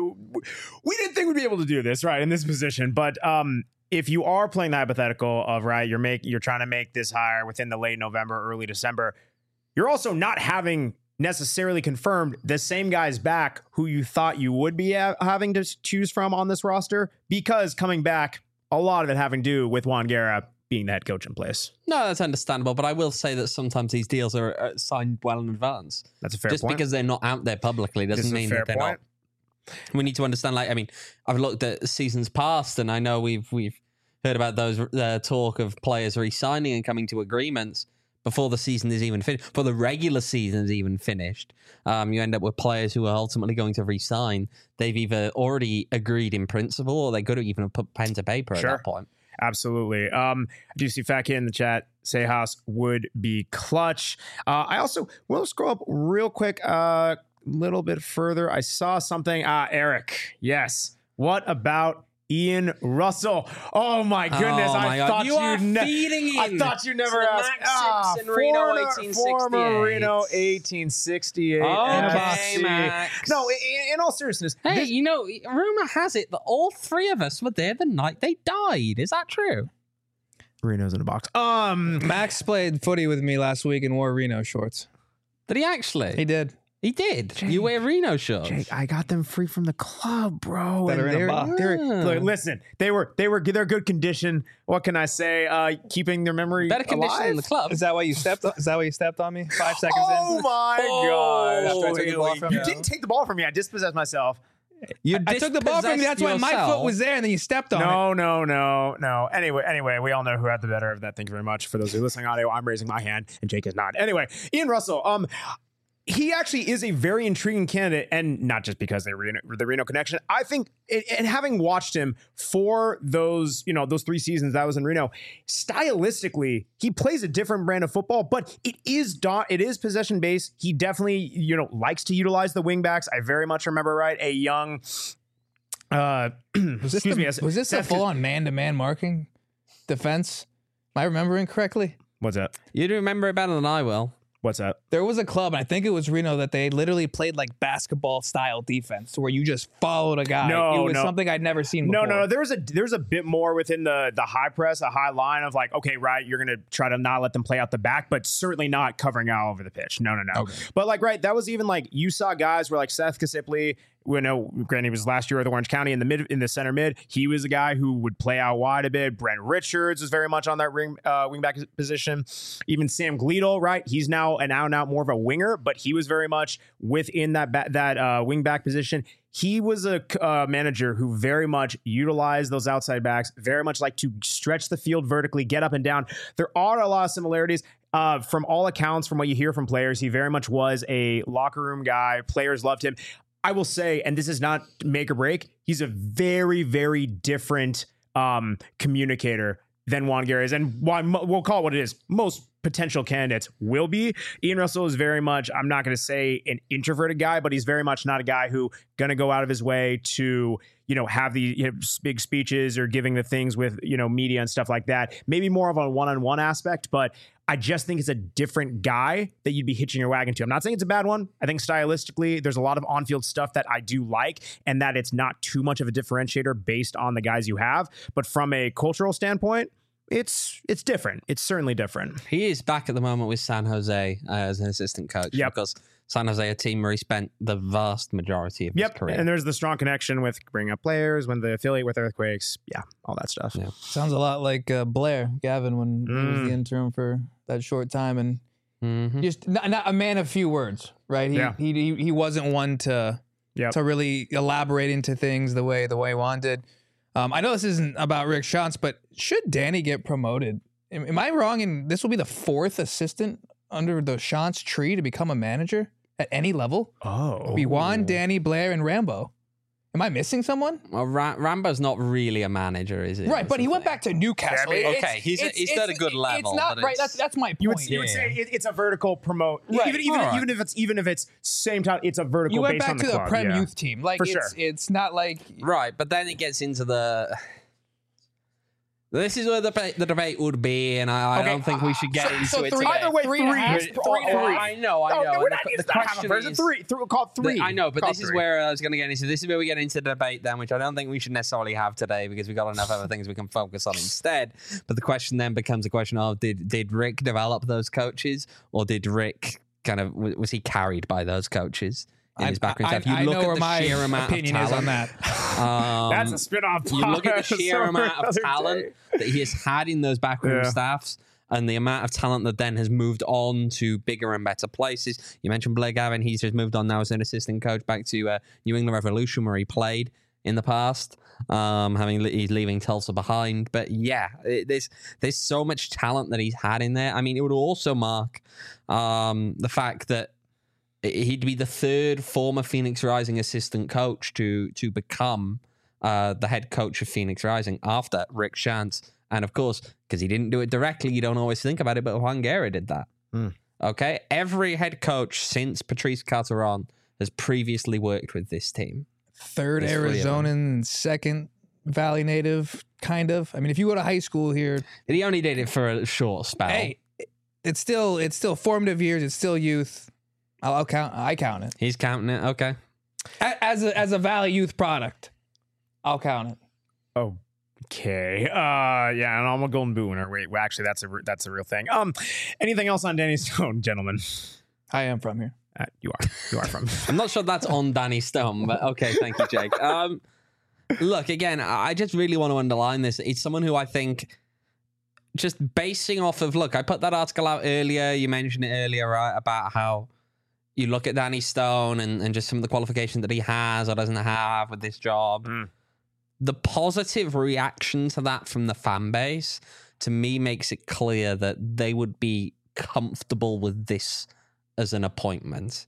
we didn't think we'd be able to do this, right, in this position. But um, if you are playing the hypothetical of, right, you're make you're trying to make this hire within the late November, early December, you're also not having necessarily confirmed the same guys back who you thought you would be ha- having to choose from on this roster, because coming back, a lot of it having to do with Juan Guerra being the head coach in place. No, that's understandable. But I will say that sometimes these deals are uh, signed well in advance. That's a fair Just point. because they're not out there publicly doesn't This is a mean fair that they're point. not. We need to understand. Like, I mean, I've looked at seasons past, and I know we've we've heard about those uh, talk of players re-signing and coming to agreements before the season is even finished, before the regular season is even finished. Um, you end up with players who are ultimately going to re-sign. They've either already agreed in principle, or they could have even put pen to paper Sure. at that point. Absolutely. Um, I do see Fat Kid in the chat. Sejas would be clutch. Uh, I also will scroll up real quick, a uh, little bit further. I saw something. Uh, Eric. Yes. What about Ian Russell? Oh my goodness! Oh my I God. thought You are ne- feeding I in thought you never to the asked. Max Ah, Simpson Reno former- eighteen Former sixty-eight. Reno eighteen sixty-eight. Okay, N F C. Max. No, in, in all seriousness, Hey, this- you know, rumor has it that all three of us were there the night they died. Is that true? Reno's in a box. Um, Max played footy with me last week and wore Reno shorts. Did he actually? He did. He did. Jake, you wear Reno shorts. Jake, I got them free from the club, bro. That and are in a they're- box. they're- Ah. look, listen, they were they were they're good condition. What can I say? Uh, keeping their memory Better condition alive? than the club. Is that why you stepped? On, is that why you stepped on me? Five seconds Oh in. my Oh, gosh! After I took the ball from you you. didn't take the ball from me. I dispossessed myself. You I took the ball from you. That's why my yourself. foot was there, and then you stepped on it. No, no, no, no. Anyway, anyway, we all know who had the better of that. Thank you very much. For those who are listening audio, I'm raising my hand and Jake is not. Anyway, Ian Russell, um, he actually is a very intriguing candidate, and not just because they Reno, the Reno connection. I think, and having watched him for those, you know, those three seasons that I was in Reno, stylistically, he plays a different brand of football, but it is do- it is possession based. He definitely, you know, likes to utilize the wingbacks. I very much remember, right, a young. Uh, Was this excuse the, me. was this the Seth- full-on man-to-man marking defense? Am I remembering correctly? What's that? You'd remember it better than I will. What's that? There was a club, and I think it was Reno, that they literally played like basketball-style defense, where you just followed a guy. No, it was no. something I'd never seen No, before. no, no. There was a there's a bit more within the the high press, a high line of like, okay, right, you're gonna try to not let them play out the back, but certainly not covering out over the pitch. No, no, no. Okay. But like, right, that was even like you saw guys where like Seth Kasipley, you know, granted he was last year with Orange County in the mid in the center mid. He was a guy who would play out wide a bit. Brent Richards was very much on that ring uh, wingback position. Even Sam Gleedle, right? He's now an out and out more of a winger, but he was very much within that ba- that uh, wingback position. He was a uh, manager who very much utilized those outside backs, very much like to stretch the field vertically, get up and down. There are a lot of similarities. Uh, from all accounts, from what you hear from players, he very much was a locker room guy. Players loved him. I will say, and this is not make or break, he's a very, very different um, communicator than Juan Guerra is. And why we'll call it what it is. Most potential candidates will be. Ian Russell is very much, I'm not going to say an introverted guy, but he's very much not a guy who going to go out of his way to, you know, have the you know, big speeches or giving the things with, you know, media and stuff like that. Maybe more of a one-on-one aspect, but I just think it's a different guy that you'd be hitching your wagon to. I'm not saying it's a bad one. I think stylistically, there's a lot of on-field stuff that I do like, and that it's not too much of a differentiator based on the guys you have. But from a cultural standpoint, it's it's different. It's certainly different. He is back at the moment with San Jose uh, as an assistant coach. Yep. Because San Jose, a team where he spent the vast majority of Yep. his career. And there's the strong connection with bringing up players, when they affiliate with Earthquakes. Yeah, all that stuff. Yeah. Sounds a lot like uh, Blair Gavin when he was Mm. the interim for that short time, and Mhm. just not, not a man of few words, right? He, Yeah. he he he wasn't one to Yep. to really elaborate into things the way the way Juan did. Um, I know this isn't about Rick Schantz, but should Danny get promoted? Am, am I wrong? And this will be the fourth assistant under the Schantz tree to become a manager at any level. Oh. Be Juan, Danny, Blair, and Rambo. Am I missing someone? Well, Ra- Rambo's not really a manager, is he? Right, That's but the he went thing. back to Newcastle. Yeah, I mean, It's- okay, he's- it's- he's it's- at a good level, It's not but right. it's- That's that's my You would, point. you would Yeah. say it, it's a vertical promote. Right. Even even, Alright. even if it's even if it's same time, it's a vertical You went based back on the to the club. Prem yeah. youth team. Like For it's sure. it's not like Right, but then it gets into the. This is where the debate, the debate would be, and I, I Okay, don't think we should get so- into so it three- today. Either way, Three and a three. half, Three three and a Oh, half. I know, I No, know. no, we're and not the, using the that half a question version. is, Three. Three. Call it the- three. I know, but Call this is three. where I was going to get into. This is where we get into the debate then, which I don't think we should necessarily have today because we've got enough other things we can focus on instead. But the question then becomes a question of did did Rick develop those coaches, or did Rick kind of w- was he carried by those coaches in his background? I, stuff? You I look know at where the my sheer amount opinion of is on talent. that. Um, That's a spin-off. You look at the podcast sheer for amount of another talent day. that he has had in those backroom Yeah. staffs and the amount of talent that then has moved on to bigger and better places. You mentioned Blair Gavin. He's just moved on now as an assistant coach back to uh, New England Revolution where he played in the past, um, having he's leaving Tulsa behind. But yeah, it, there's there's so much talent that he's had in there. I mean, it would also mark um, the fact that he'd be the third former Phoenix Rising assistant coach to to become uh, the head coach of Phoenix Rising after Rick Schantz. And of course, because he didn't do it directly, you don't always think about it, but Juan Guerra did that. Mm. Okay? Every head coach since Patrice Carteron has previously worked with this team. Third There's three of them. Arizonan, second Valley native, kind of. I mean, if you go to high school here, He only did it for a short spell. hey, it's still it's still formative years. It's still youth. I'll, I'll count. I count it He's counting it. Okay. A- as a, as a Valley youth product. I'll count it. Okay. Uh, yeah, and I'm a Golden Boot winner. Wait, well, actually, that's a re- that's a real thing. Um, anything else on Danny Stone, gentlemen? I am from here. Uh, you are. You are from. I'm not sure that's on Danny Stone, but okay, thank you, Jake. Um, look, again, I just really want to underline this. It's someone who I think, just basing off of, look, I put that article out earlier. You mentioned it earlier, right, about how you look at Danny Stone and, and just some of the qualifications that he has or doesn't have with this job. Mm. The positive reaction to that from the fan base, to me, makes it clear that they would be comfortable with this as an appointment.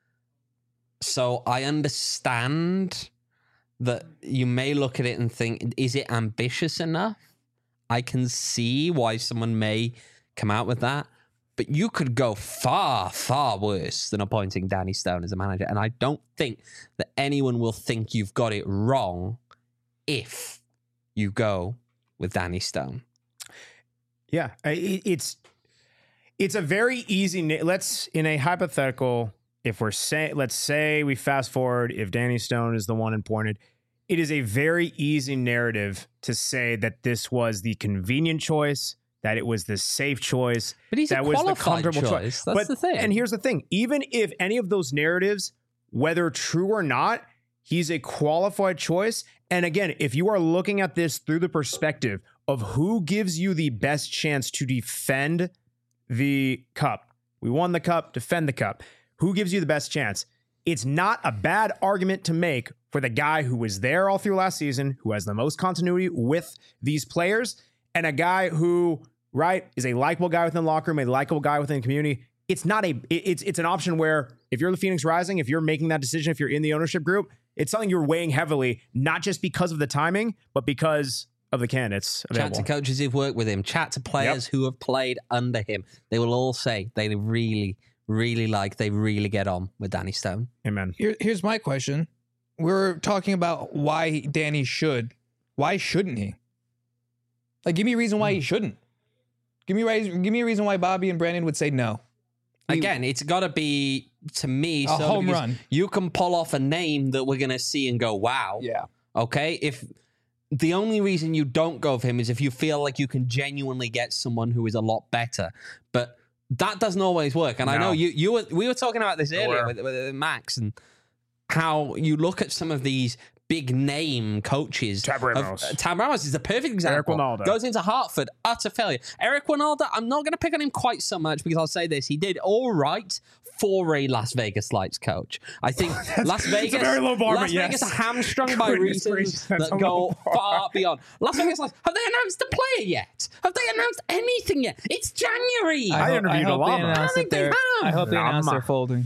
So I understand that you may look at it and think, is it ambitious enough? I can see why someone may come out with that. But you could go far, far worse than appointing Danny Stone as a manager. And I don't think that anyone will think you've got it wrong if you go with Danny Stone. Yeah, I- it, it's it's a very easy. na- Let's in a hypothetical, if we're saying, let's say we fast forward, if Danny Stone is the one appointed, it is a very easy narrative to say that this was the convenient choice, that it was the safe choice, But he's that a was the qualified comfortable choice. choice. That's But- the thing. And here's the thing: even if any of those narratives, whether true or not, he's a qualified choice. And again, if you are looking at this through the perspective of who gives you the best chance to defend the cup, we won the cup, defend the cup. Who gives you the best chance? It's not a bad argument to make for the guy who was there all through last season, who has the most continuity with these players, and a guy who, right, is a likable guy within the locker room, a likable guy within the community. It's not a, it- it's it's an option where if you're the Phoenix Rising, if you're making that decision, if you're in the ownership group, it's something you're weighing heavily, not just because of the timing, but because of the candidates Chat available. to coaches who've worked with him, chat to players who have played under him. They will all say they really, really like, they really get on with Danny Stone. Amen. Here, here's my question. We're talking about why Danny should. Why shouldn't he? Like, give me a reason why he shouldn't. Give me a give me a reason why Bobby and Brandon would say no. Again, it's got to be, to me, A so home because run. You can pull off a name that we're going to see and go, wow. Yeah. Okay? If the only reason you don't go with him is if you feel like you can genuinely get someone who is a lot better. But that doesn't always work. And I No. know you you were, we were talking about this earlier Where? with, with Max and how you look at some of these big name coaches. Tab Ramos. Of, uh, Tab Ramos is the perfect example. Winalda. Goes into Hartford, utter failure. Eric Winalda, I'm not going to pick on him quite so much because I'll say this. He did all right for a Las Vegas Lights coach. I think Las Vegas, a very low bar, Las but yes. Vegas are hamstrung by Goodness reasons gracious, that's that a go low bar. far beyond. Las Vegas Lights, have they announced a player yet? Have they announced anything yet? It's January. I hope- interviewed hope they Alama. announced I don't that think they they're- have. I hope they announced Alama. they're folding.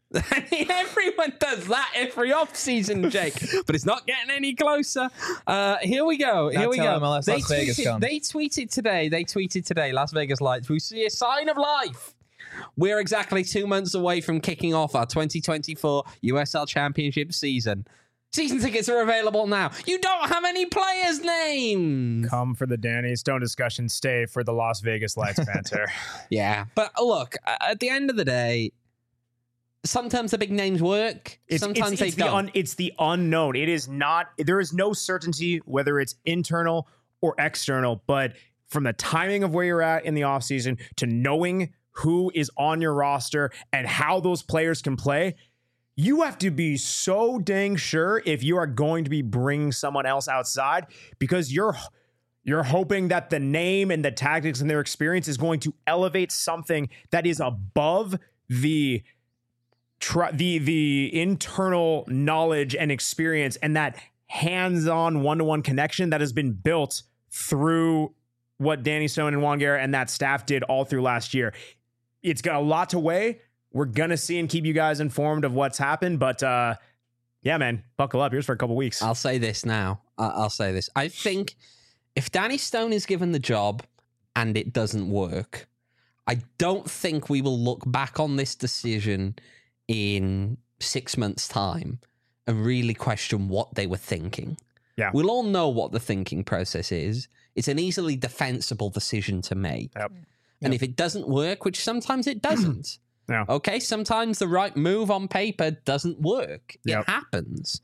Everyone does that every off season, Jake, but it's not getting any closer. Uh, here we go. Here That's we how go. M L S they, Las Vegas tweeted, comes. they tweeted today. They tweeted today. Las Vegas Lights. We see a sign of life. We're exactly two months away from kicking off our twenty twenty-four U S L Championship season. Season tickets are available now. You don't have any players' names. Come for the Danny Stone discussion. Stay for the Las Vegas Lights banter. Yeah, but look, at the end of the day, sometimes the big names work. It's, sometimes it's, they it's the don't. un, it's the unknown. It is not. There is no certainty whether it's internal or external. But from the timing of where you're at in the offseason to knowing who is on your roster and how those players can play, you have to be so dang sure if you are going to be bringing someone else outside, because you're you're hoping that the name and the tactics and their experience is going to elevate something that is above the try the the internal knowledge and experience and that hands-on one-to-one connection that has been built through what Danny Stone and Juan Guerra and that staff did all through last year. It's got a lot to weigh. We're gonna see and keep you guys informed of what's happened, but uh yeah, man, buckle up. Here's for a couple weeks. I'll say this now. I- I'll say this. I think if Danny Stone is given the job and it doesn't work, I don't think we will look back on this decision in six months' time and really question what they were thinking. Yeah. We'll all know what the thinking process is. It's an easily defensible decision to make. Yep. And if it doesn't work, which sometimes it doesn't, Yeah. okay, sometimes the right move on paper doesn't work. Yep. It happens.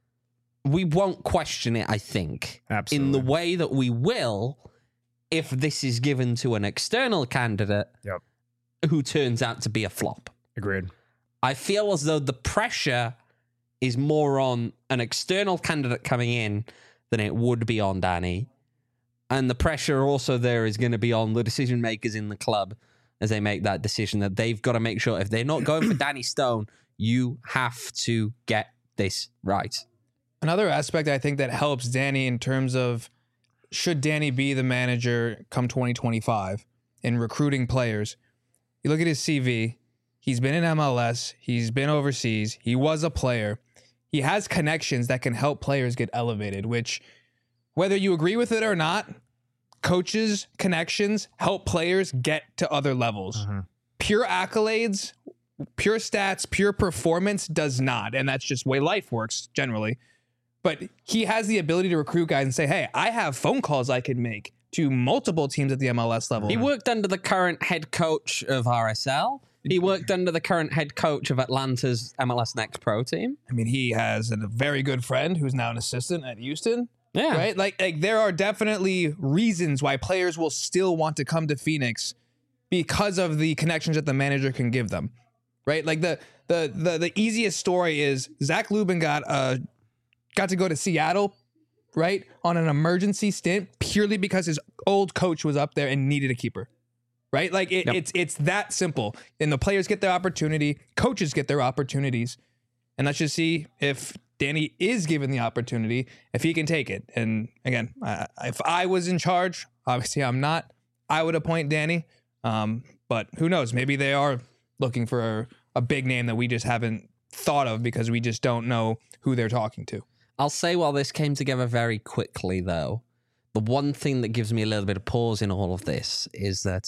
We won't question it, I think, Absolutely. in the way that we will if this is given to an external candidate Yep. who turns out to be a flop. Agreed. I feel as though the pressure is more on an external candidate coming in than it would be on Danny. And the pressure also there is going to be on the decision makers in the club as they make that decision, that they've got to make sure if they're not going for Danny Stone, you have to get this right. Another aspect I think that helps Danny in terms of should Danny be the manager come twenty twenty-five in recruiting players. You look at his C V. He's been in M L S. He's been overseas. He was a player. He has connections that can help players get elevated, which, whether you agree with it or not, coaches' connections help players get to other levels. Mm-hmm. Pure accolades, pure stats, pure performance does not. And that's just the way life works generally. But he has the ability to recruit guys and say, hey, I have phone calls I can make to multiple teams at the M L S level. He worked under the current head coach of R S L. He worked under the current head coach of Atlanta's M L S Next Pro team. I mean, he has a very good friend who's now an assistant at Houston. Yeah. Right? Like, like there are definitely reasons why players will still want to come to Phoenix because of the connections that the manager can give them. Right? Like the the the, the easiest story is Zach Lubin got uh got to go to Seattle, right, on an emergency stint purely because his old coach was up there and needed a keeper. Right? Like it, Yep. it's it's that simple. And the players get their opportunity, coaches get their opportunities. And let's just see if Danny is given the opportunity, if he can take it. And again, I, if I was in charge, obviously I'm not, I would appoint Danny. Um, but who knows? Maybe they are looking for a, a big name that we just haven't thought of because we just don't know who they're talking to. I'll say while this came together very quickly, though, the one thing that gives me a little bit of pause in all of this is that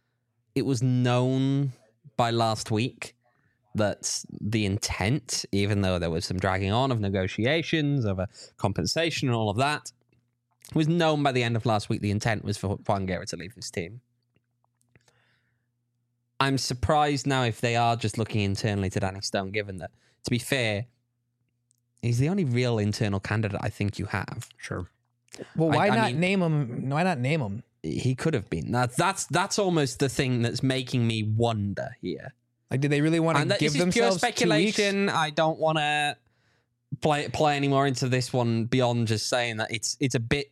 it was known by last week that the intent, even though there was some dragging on of negotiations, of a compensation and all of that, was known by the end of last week the intent was for Juan Guerra to leave his team. I'm surprised now if they are just looking internally to Danny Stone, given that, to be fair, he's the only real internal candidate I think you have. Sure. Well, why I- I not mean- name him? Why not name him? He could have been. That, that's that's almost the thing that's making me wonder here. Like, did they really want to And that, give this is pure themselves two weeks? speculation. I don't want to play play any more into this one beyond just saying that it's it's a bit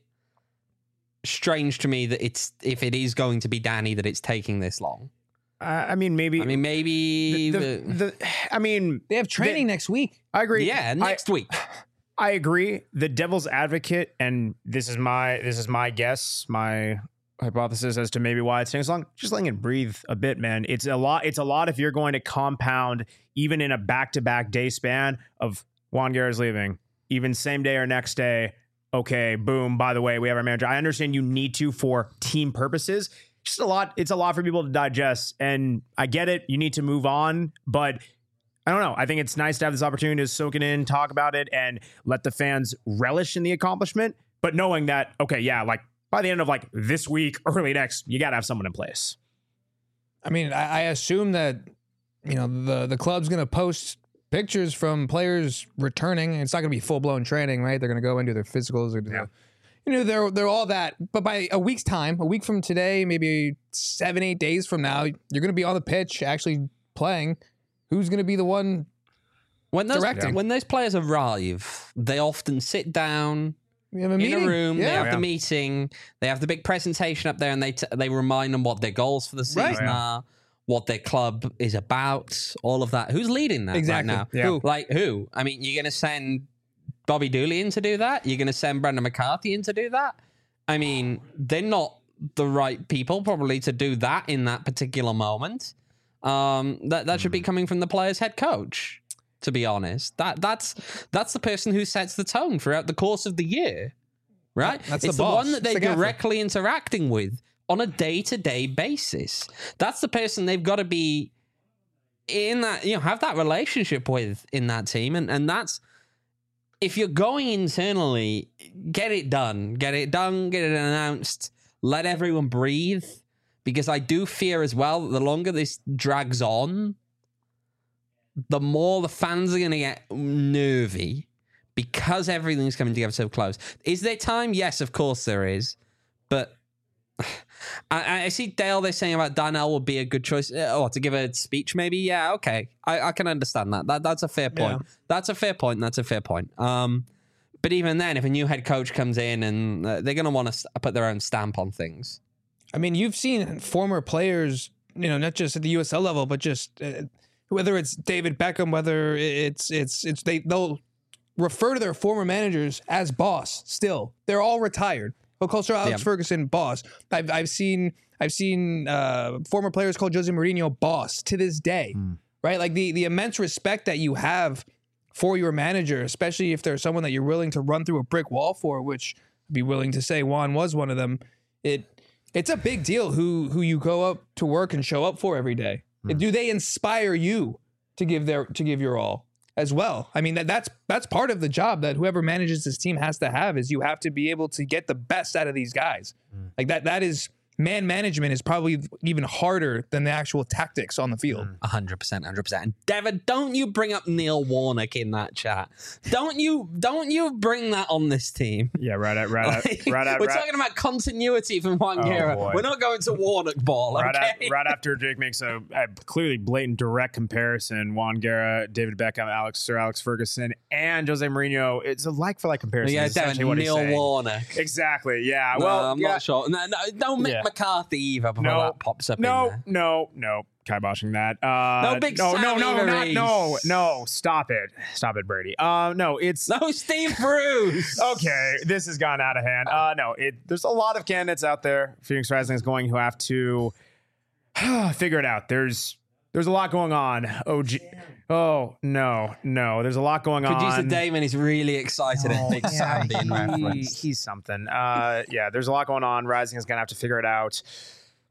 strange to me that it's if it is going to be Danny that it's taking this long. Uh, I mean, maybe. I mean, maybe. the, the, but- the, I mean, They have training next week. I agree. yeah, I- next week. I agree. The devil's advocate, and this is my this is my guess, my hypothesis as to maybe why it's taking so long. Just letting it breathe a bit, man. It's a lot. It's a lot if you're going to compound even in a back to back day span of Juan Guerra's leaving, even same day or next day. Okay, boom. By the way, we have our manager. I understand you need to for team purposes. Just a lot. It's a lot for people to digest, and I get it. You need to move on, but. I don't know. I think it's nice to have this opportunity to soak it in, talk about it, and let the fans relish in the accomplishment. But knowing that, okay, yeah, like by the end of like this week, early next, you got to have someone in place. I mean, I, I assume that, you know, the the club's going to post pictures from players returning. It's not going to be full blown training, right? They're going to go into their physicals or do Yeah. the, you know, they're they're all that. But by a week's time, a week from today, maybe seven eight days from now, you're going to be on the pitch actually playing. Who's going to be the one When those directing? when those players arrive, they often sit down We have a in meeting? a room. They Yeah. have Yeah. the meeting. They have the big presentation up there, and they t- they remind them what their goals for the season Right. Yeah. are, what their club is about, all of that. Who's leading that Exactly. right now? Yeah. Who? Like who? I mean, you're going to send Bobby Dooley in to do that? You're going to send Brendan McCarthy in to do that? I mean, they're not the right people probably to do that in that particular moment. Um, that that should be coming from the player's head coach. To be honest, that that's that's the person who sets the tone throughout the course of the year, right? That's it's the the, boss. one that It's they're the gaffer. directly interacting with on a day-to-day basis. That's the person they've got to be in that, you know, have that relationship with in that team, and and that's if you're going internally, get it done, get it done, get it announced, let everyone breathe. Because I do fear as well that the longer this drags on, the more the fans are going to get nervy because everything's coming together so close. Is there time? Yes, of course there is. But I, I see Dale, they're saying about Darnell would be a good choice. Oh, to give a speech maybe? Yeah, okay. I, I can understand that. that. That's a fair point. Yeah. That's a fair point. That's a fair point. Um, but even then, if a new head coach comes in and uh, they're going to want to put their own stamp on things. I mean, you've seen former players, you know, not just at the U S L level, but just uh, whether it's David Beckham, whether it's it's it's they they'll refer to their former managers as boss. Still, they're all retired. They'll call Sir Alex Yeah. Ferguson boss. I've I've seen I've seen uh, former players call Jose Mourinho boss to this day, right? Like the the immense respect that you have for your manager, especially if there's someone that you're willing to run through a brick wall for, which I'd be willing to say Juan was one of them. It It's a big deal who who you go up to work and show up for every day. Do they inspire you to give their to give your all as well? I mean that that's that's part of the job that whoever manages this team has to have is you have to be able to get the best out of these guys. Like that that is man management is probably even harder than the actual tactics on the field. A hundred percent, hundred percent. And Devin, don't you bring up Neil Warnock in that chat? Don't you? Don't you bring that on this team? Yeah, right at right at Like, right at we're right, talking about continuity from Juan Oh, Guerra. boy. We're not going to Warnock ball. right, Okay. at, right after Jake makes a, a clearly blatant direct comparison, Juan Guerra, David Beckham, Alex Sir Alex Ferguson, and Jose Mourinho. It's a like for like comparison. Yeah, is essentially Devin, what he's Neil saying. Warnock. Exactly. Yeah. No, well, I'm yeah. not sure. No, no, don't Mick Yeah. McCarthy either before No, that pops up in No, there. no, no. Kiboshing that. Uh, No, Big no, no, Sammy no, not, Maurice. no, no. Stop it. Stop it, Brady. Uh, no, it's No, Steve Bruce. okay. This has gone out of hand. Uh, no, it. There's a lot of candidates out there. Phoenix Rising is going who have to figure it out. There's there's a lot going on. Oh, G- oh no, no. There's a lot going on. Producer Damon is really excited at Big Sam being he, referenced. he's something. Uh, yeah, there's a lot going on. Rising is gonna have to figure it out.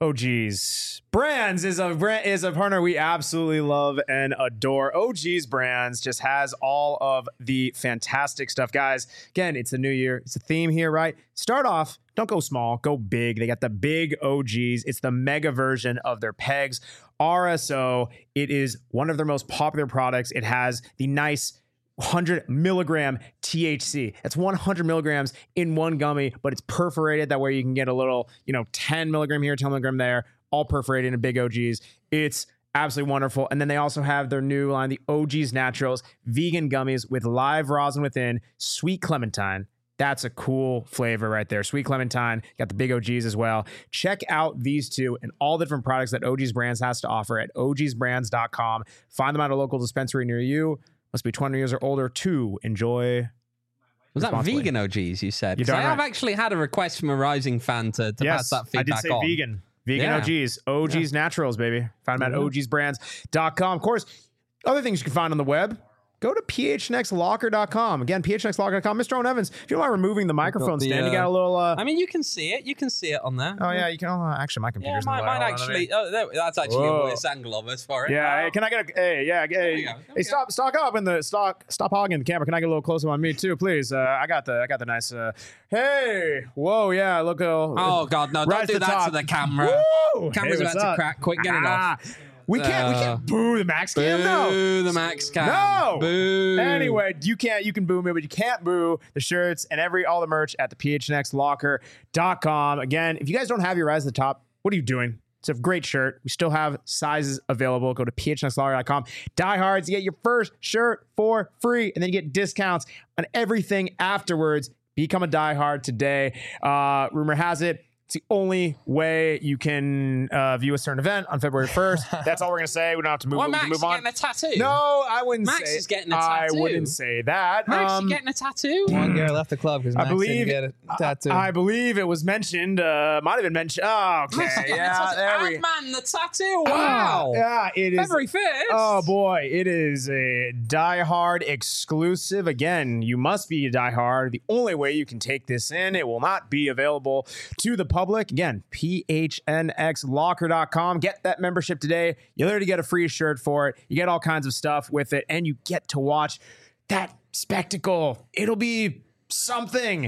O G's Brands is a brand is a partner we absolutely love and adore. O G's Brands just has all of the fantastic stuff, guys. Again, it's the new year. It's a theme here, right? Start off. Don't go small. Go big. They got the big O G's. It's the mega version of their pegs. R S O. It is one of their most popular products. It has the nice one hundred milligram T H C. That's one hundred milligrams in one gummy, but it's perforated. That way you can get a little, you know, ten milligram here, ten milligram there, all perforated in big O G's. It's absolutely wonderful. And then they also have their new line, the O G's Naturals, vegan gummies with live rosin within, sweet clementine. That's a cool flavor right there. Sweet clementine. Got the big O G's as well. Check out these two and all the different products that O G's Brands has to offer at O Gs brands dot com. Find them at a local dispensary near you. Must be twenty years or older to enjoy. Was that vegan O Gs you said? You I have right. actually had a request from a Rising fan to, to yes, pass that feedback on. I did say on. vegan. Vegan Yeah. O Gs. O Gs Yeah. Naturals, baby. Find them at Mhm. O Gs brands dot com. Of course, other things you can find on the web. Go to P H N X locker dot com. Again, P H N X locker dot com. Mister Owen Evans, if you don't mind removing the microphone the, stand, you uh, got a little... Uh, I mean, you can see it. You can see it on there. oh, yeah, you can... Oh, actually, my Yeah, computer's mine, in the way. mine Hold on a actually. minute. Oh, there- that's actually Whoa. a worse angle of us for it. Yeah, Uh, hey, can I get a... Hey, yeah, hey, we go, there hey we stop stock up in the... Stock, stop hogging the camera. Can I get a little closer on me, too, please? Uh, I got the I got the nice... Uh, hey! Whoa, yeah, look... Uh, Oh, God, no. Don't Rise do to the that top. to the camera. Woo! Camera's Hey, about what's to up? crack. Quick, get it Ah, off. We can't, we Uh, can't boo the max cam, no. Boo the Max Cam. No. Boo. Anyway, you can't you can boo me, but you can't boo the shirts and every all the merch at the P H N X locker dot com. Again, if you guys don't have your Rise to the Top, what are you doing? It's a great shirt. We still have sizes available. Go to P H N X locker dot com. Diehards, you get your first shirt for free, and then you get discounts on everything afterwards. Become a diehard today. Uh, rumor has it, it's the only way you can uh, view a certain event on February first. That's all we're going to say. We don't have to move, Well, we Max, can move you're on. getting a tattoo. No, I wouldn't Max say is getting a I tattoo. wouldn't say that. Max, Um, you getting a tattoo? Juan Garrett left the club because I Max believe didn't get a tattoo. I believe it was mentioned. Uh, might have been mentioned. Oh, okay. Max is getting a Yeah, tattoo. there we Ant-Man, the tattoo. Ah, Wow. yeah, it is. February fifth. Oh boy, it is a Die Hard exclusive. Again, you must be a Die Hard. The only way you can take this in, it will not be available to the public. Again, P H N X locker dot com. Get that membership today. You literally get a free shirt for it. You get all kinds of stuff with it, and you get to watch that spectacle. It'll be something.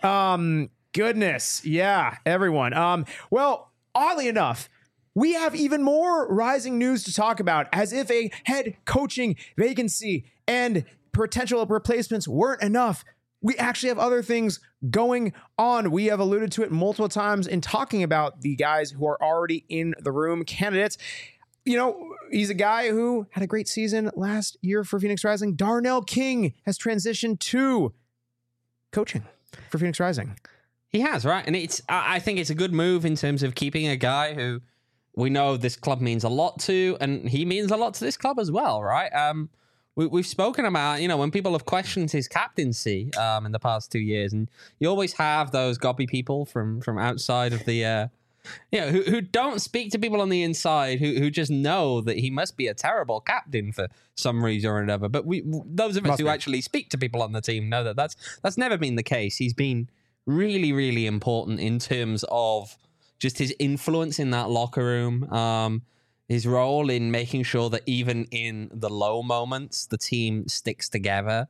Um, goodness, yeah, everyone. Um, well, oddly enough, we have even more rising news to talk about, as if a head coaching vacancy and potential replacements weren't enough. We actually have other things going on. We have alluded to it multiple times in talking about the guys who are already in the room, candidates. You know, he's a guy who had a great season last year for Phoenix Rising. Darnell King has transitioned to coaching for Phoenix Rising. He has, right? And it's I I think it's a good move in terms of keeping a guy who we know this club means a lot to, and he means a lot to this club as well, right? Um, we, we've spoken about, you know, when people have questioned his captaincy um, in the past two years, and you always have those gobby people from from outside of the, uh, you know, who, who don't speak to people on the inside, who who just know that he must be a terrible captain for some reason or another. But we, those of us Must who be. actually speak to people on the team know that that's that's never been the case. He's been really, really important in terms of just his influence in that locker room, um, his role in making sure that even in the low moments, the team sticks together,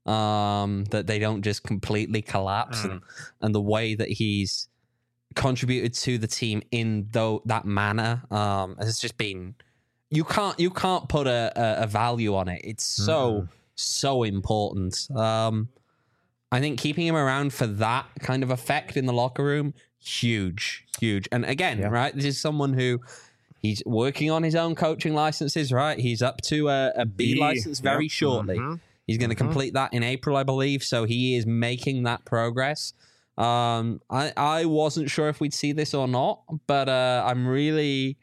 um, that they don't just completely collapse, Mm. and, and the way that he's contributed to the team in though that manner um, has just been, you can't you can't put a, a, a value on it. It's so, Mm. so important. Um, I think keeping him around for that kind of effect in the locker room, huge, huge. And again, Yeah. right, this is someone who he's working on his own coaching licenses, right? He's up to a, a B, B, license very yep. shortly. Mhm. He's going to Mhm. complete that in April, I believe. So he is making that progress. Um, I, I wasn't sure if we'd see this or not, but uh, I'm really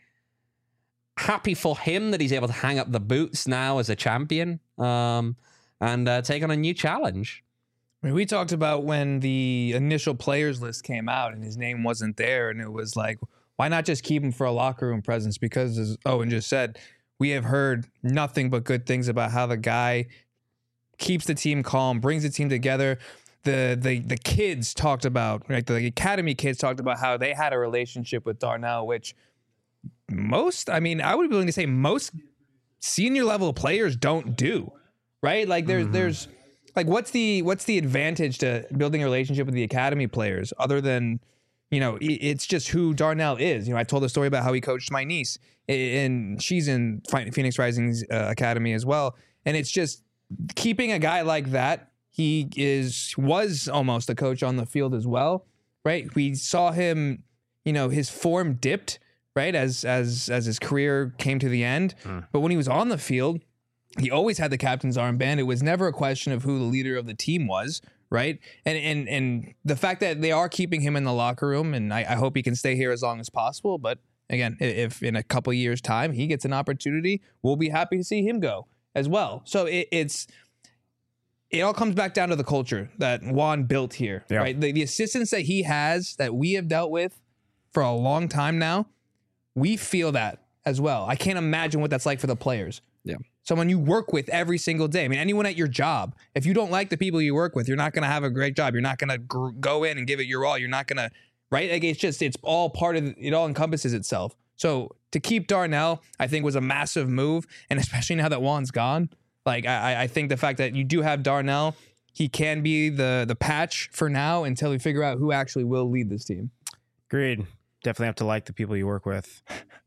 happy for him that he's able to hang up the boots now as a champion um, and uh, take on a new challenge. I mean, we talked about when the initial players list came out and his name wasn't there, and it was like, why not just keep him for a locker room presence? Because, as Owen just said, we have heard nothing but good things about how the guy keeps the team calm, brings the team together. The the the kids talked about, like the academy kids talked about how they had a relationship with Darnell, which most, I mean, I would be willing to say most senior level players don't do, right? Like there's, mm-hmm. there's like, what's the, what's the advantage to building a relationship with the academy players other than, you know, it's just who Darnell is. You know, I told a story about how he coached my niece, and she's in Phoenix Rising's uh, academy as well. And it's just keeping a guy like that. He is, was almost a coach on the field as well, right? We saw him, you know, his form dipped, right? As, as, as his career came to the end. Mm. But when he was on the field, he always had the captain's armband. It was never a question of who the leader of the team was. Right. And and and the fact that they are keeping him in the locker room, and I, I hope he can stay here as long as possible. But again, if in a couple of years time he gets an opportunity, we'll be happy to see him go as well. So it, it's it all comes back down to the culture that Juan built here. Yeah. Right. The, the assistants that he has that we have dealt with for a long time now, we feel that as well. I can't imagine what that's like for the players. Yeah. Someone you work with every single day. I mean, anyone at your job, if you don't like the people you work with, you're not going to have a great job. You're not going to gr- go in and give it your all. You're not going to, right? Like it's just, it's all part of, it all encompasses itself. So to keep Darnell, I think was a massive move. And especially now that Juan's gone, like I, I think the fact that you do have Darnell, he can be the, the patch for now until we figure out who actually will lead this team. Agreed. Definitely have to like the people you work with.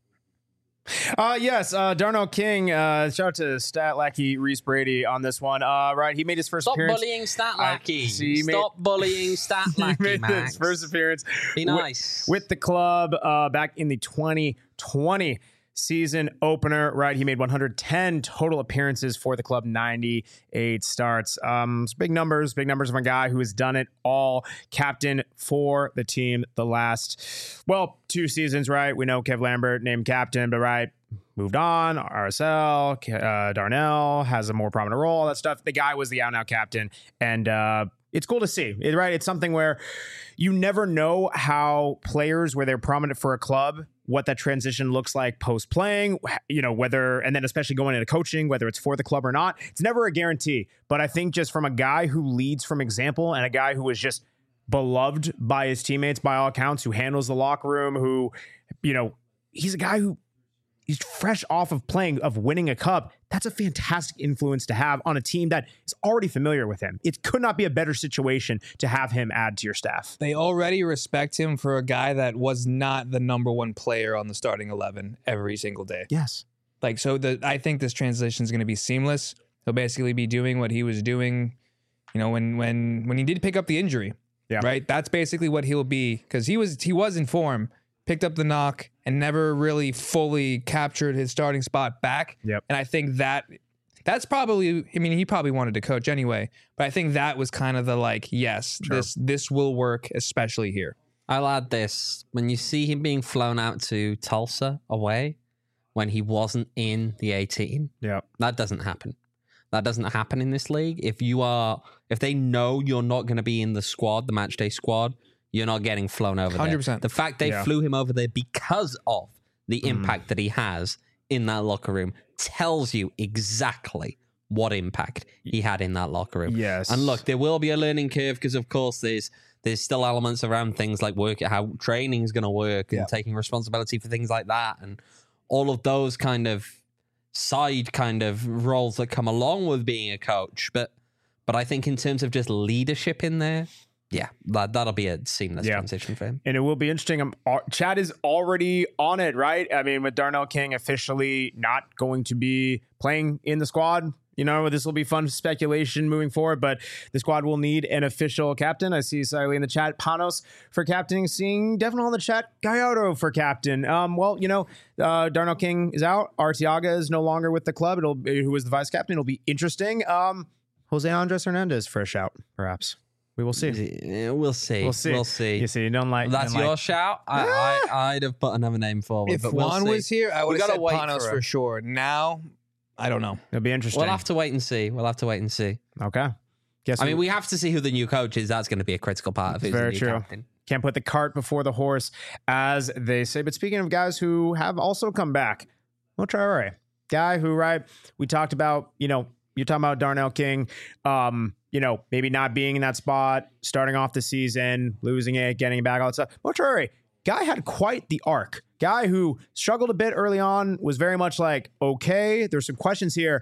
Uh, yes, uh, Darnell King, uh, shout out to Stat Lackey Reese Brady on this one. Uh, right, he made his first Stop appearance. Stop bullying Stat Lackey. See, Stop made, bullying Stat Lackey, He made Max. his first appearance. Be nice. With, with the club uh, back in the twenty twenty season opener, right? He made one hundred ten total appearances for the club, ninety-eight starts. Um, big numbers, big numbers of a guy who has done it all. Captain for the team the last, well, two seasons, right? We know Kev Lambert named captain, but right, moved on. R S L, uh, Darnell has a more prominent role, all that stuff. The guy was the out and out captain, and uh, it's cool to see, it, right? It's something where you never know how players, where they're prominent for a club, what that transition looks like post playing, you know, whether, and then especially going into coaching, whether it's for the club or not. It's never a guarantee. But I think just from a guy who leads from example and a guy who is just beloved by his teammates, by all accounts, who handles the locker room, who, you know, he's a guy who he's fresh off of playing, of winning a cup. That's a fantastic influence to have on a team that is already familiar with him. It could not be a better situation to have him add to your staff. They already respect him for a guy that was not the number one player on the starting eleven every single day. Yes. Like, so the, I think this transition is going to be seamless. He'll basically be doing what he was doing, you know, when, when, when he did pick up the injury, yeah. Right. That's basically what he'll be. Cause he was, he was in form, picked up the knock, and never really fully captured his starting spot back. Yep. And I think that that's probably, I mean, he probably wanted to coach anyway, but I think that was kind of the like, yes, sure. this this will work, especially here. I'll add this. When you see him being flown out to Tulsa away, when he wasn't in the eighteen, yeah, that doesn't happen. That doesn't happen in this league. If you are, if they know you're not going to be in the squad, the match day squad, you're not getting flown over there. one hundred percent. The fact they yeah. flew him over there because of the mm. impact that he has in that locker room tells you exactly what impact he had in that locker room. Yes. And look, there will be a learning curve because, of course, there's there's still elements around things like work, how training is going to work and yeah. taking responsibility for things like that and all of those kind of side kind of roles that come along with being a coach. But but I think in terms of just leadership in there, yeah, that, that'll be a seamless yeah. transition for him. And it will be interesting. Um, Chad is already on it, right? I mean, with Darnell King officially not going to be playing in the squad, you know, this will be fun speculation moving forward, but the squad will need an official captain. I see Siley in the chat, Panos for captaining, seeing Devin on the chat, Gallardo for captain. Um, well, you know, uh, Darnell King is out. Arteaga is no longer with the club. It'll be, who is the vice captain. It'll be interesting. Um, Jose Andres Hernandez for a shout, perhaps. We will see. We'll see. We'll see. We'll see. You see, you don't like. That's don't your like. shout. I, I, I'd have put another name forward. If but Juan we'll was here, I would We have gotta said wait Panos for for, a- sure. Now, I don't know. It'll be interesting. We'll have to wait and see. We'll have to wait and see. Okay. Guess I mean, we have to see who the new coach is. That's going to be a critical part of who's Very the new true. captain. Can't put the cart before the horse, as they say. But speaking of guys who have also come back, Mo Traore, guy who, right, we talked about, you know, you're talking about Darnell King, um, you know, maybe not being in that spot, starting off the season, losing it, getting it back, all that stuff. Mo Traore, guy had quite the arc. Guy who struggled a bit early on, was very much like, okay, there's some questions here.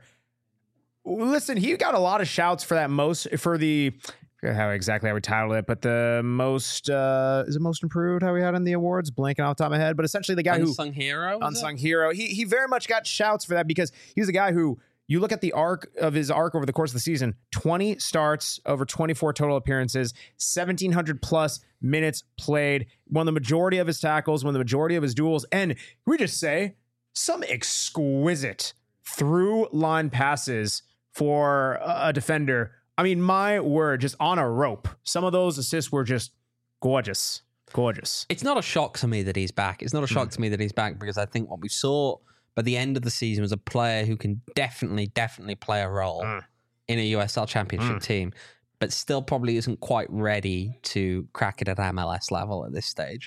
Listen, he got a lot of shouts for that most, for the, I forget how exactly how we titled it, but the most, uh, is it most improved, how we had in the awards? Blanking off the top of my head, but essentially the guy who, Unsung hero. was unsung it? hero. He he very much got shouts for that because he was a guy who, you look at the arc of his arc over the course of the season, twenty starts over twenty-four total appearances, seventeen hundred plus minutes played, won the majority of his tackles, won the majority of his duels, and we just say some exquisite through line passes for a defender. I mean, my word, just on a rope. Some of those assists were just gorgeous. Gorgeous. It's not a shock to me that he's back. It's not a shock mm. to me that he's back because I think what we saw by the end of the season was a player who can definitely, definitely play a role mm. in a U S L Championship mm. team, but still probably isn't quite ready to crack it at M L S level at this stage.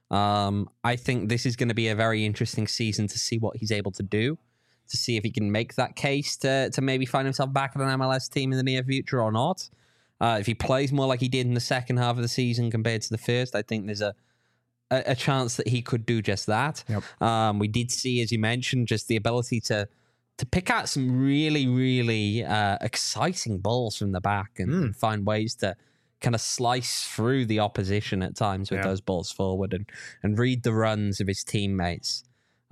Um, I think this is going to be a very interesting season to see what he's able to do, to see if he can make that case to, to maybe find himself back at an M L S team in the near future or not. Uh, if he plays more like he did in the second half of the season compared to the first, I think there's a a, a chance that he could do just that. Yep. Um, we did see, as you mentioned, just the ability to to pick out some really, really uh, exciting balls from the back and, Mm. and find ways to kind of slice through the opposition at times with Yeah. those balls forward and, and read the runs of his teammates.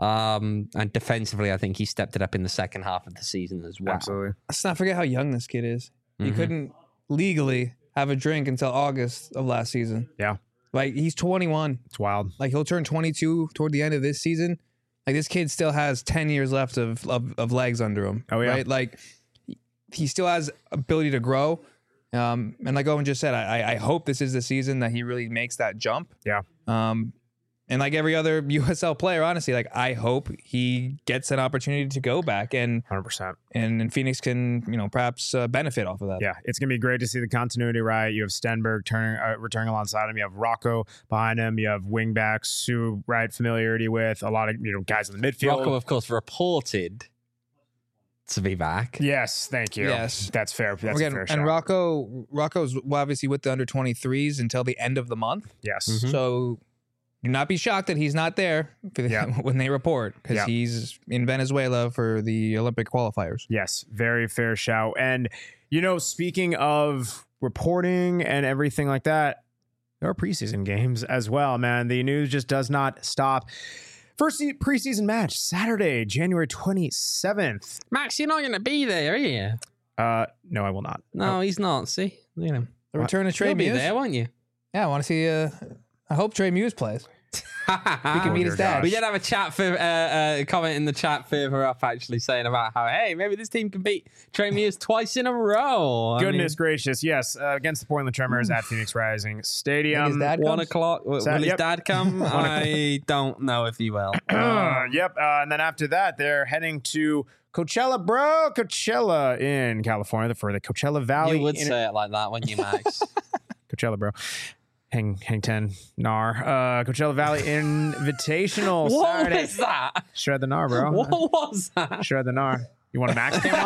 Um, and defensively, I think he stepped it up in the second half of the season as well. Absolutely. Let's not forget how young this kid is. He Mhm. couldn't legally have a drink until August of last season. Yeah. Like, he's twenty-one. It's wild. Like, he'll turn twenty-two toward the end of this season. Like, this kid still has ten years left of of, of legs under him. Oh, yeah. Right? Like, he still has ability to grow. Um, and like Owen just said, I, I hope this is the season that he really makes that jump. Yeah. Um, and like every other U S L player, honestly, like, I hope he gets an opportunity to go back and one hundred percent. and, and Phoenix can, you know, perhaps uh, benefit off of that. Yeah, it's going to be great to see the continuity, right? You have Stenberg turning, uh, returning alongside him. You have Rocco behind him. You have wingbacks who, right, familiarity with a lot of, you know, guys in the midfield. Rocco, of course, reported to be back. Yes, thank you. Yes. That's fair. That's Again, a fair and shot. Rocco, Rocco's obviously with the under twenty-threes until the end of the month. Yes. Mhm. So do not be shocked that he's not there for the, Yeah. when they report, because Yeah. he's in Venezuela for the Olympic qualifiers. Yes, very fair shout. And, you know, speaking of reporting and everything like that, there are preseason games as well, man. The news just does not stop. First se- preseason match, Saturday, January twenty-seventh. Max, you're not going to be there, are you? Uh, no, I will not. No, he's not. See, you know, The return of Trey you'll be Muse. there, won't you? Yeah, I want to see. Uh, I hope Trey Muse plays. He can Oh, meet dear his dad. gosh. We did have a chat for uh, uh, comment in the chat further up, actually saying about how hey, maybe this team can beat Trey Muse twice in a row. I Goodness mean, gracious, yes, uh, against the Portland Tremors at Phoenix Rising Stadium. Think his dad one comes? o'clock. Will Sa- his yep. dad come? I don't know if he will. Uh, yep. Uh, and then after that, they're heading to Coachella, bro. Coachella in California for the Coachella Valley. You would in- say it like that, wouldn't you, Max? Coachella, bro. Hang, hang ten, Nar. Uh, Coachella Valley Invitational what Saturday. was that? Shred the Nar, bro. What was that? Shred the Nar. You want a Max cam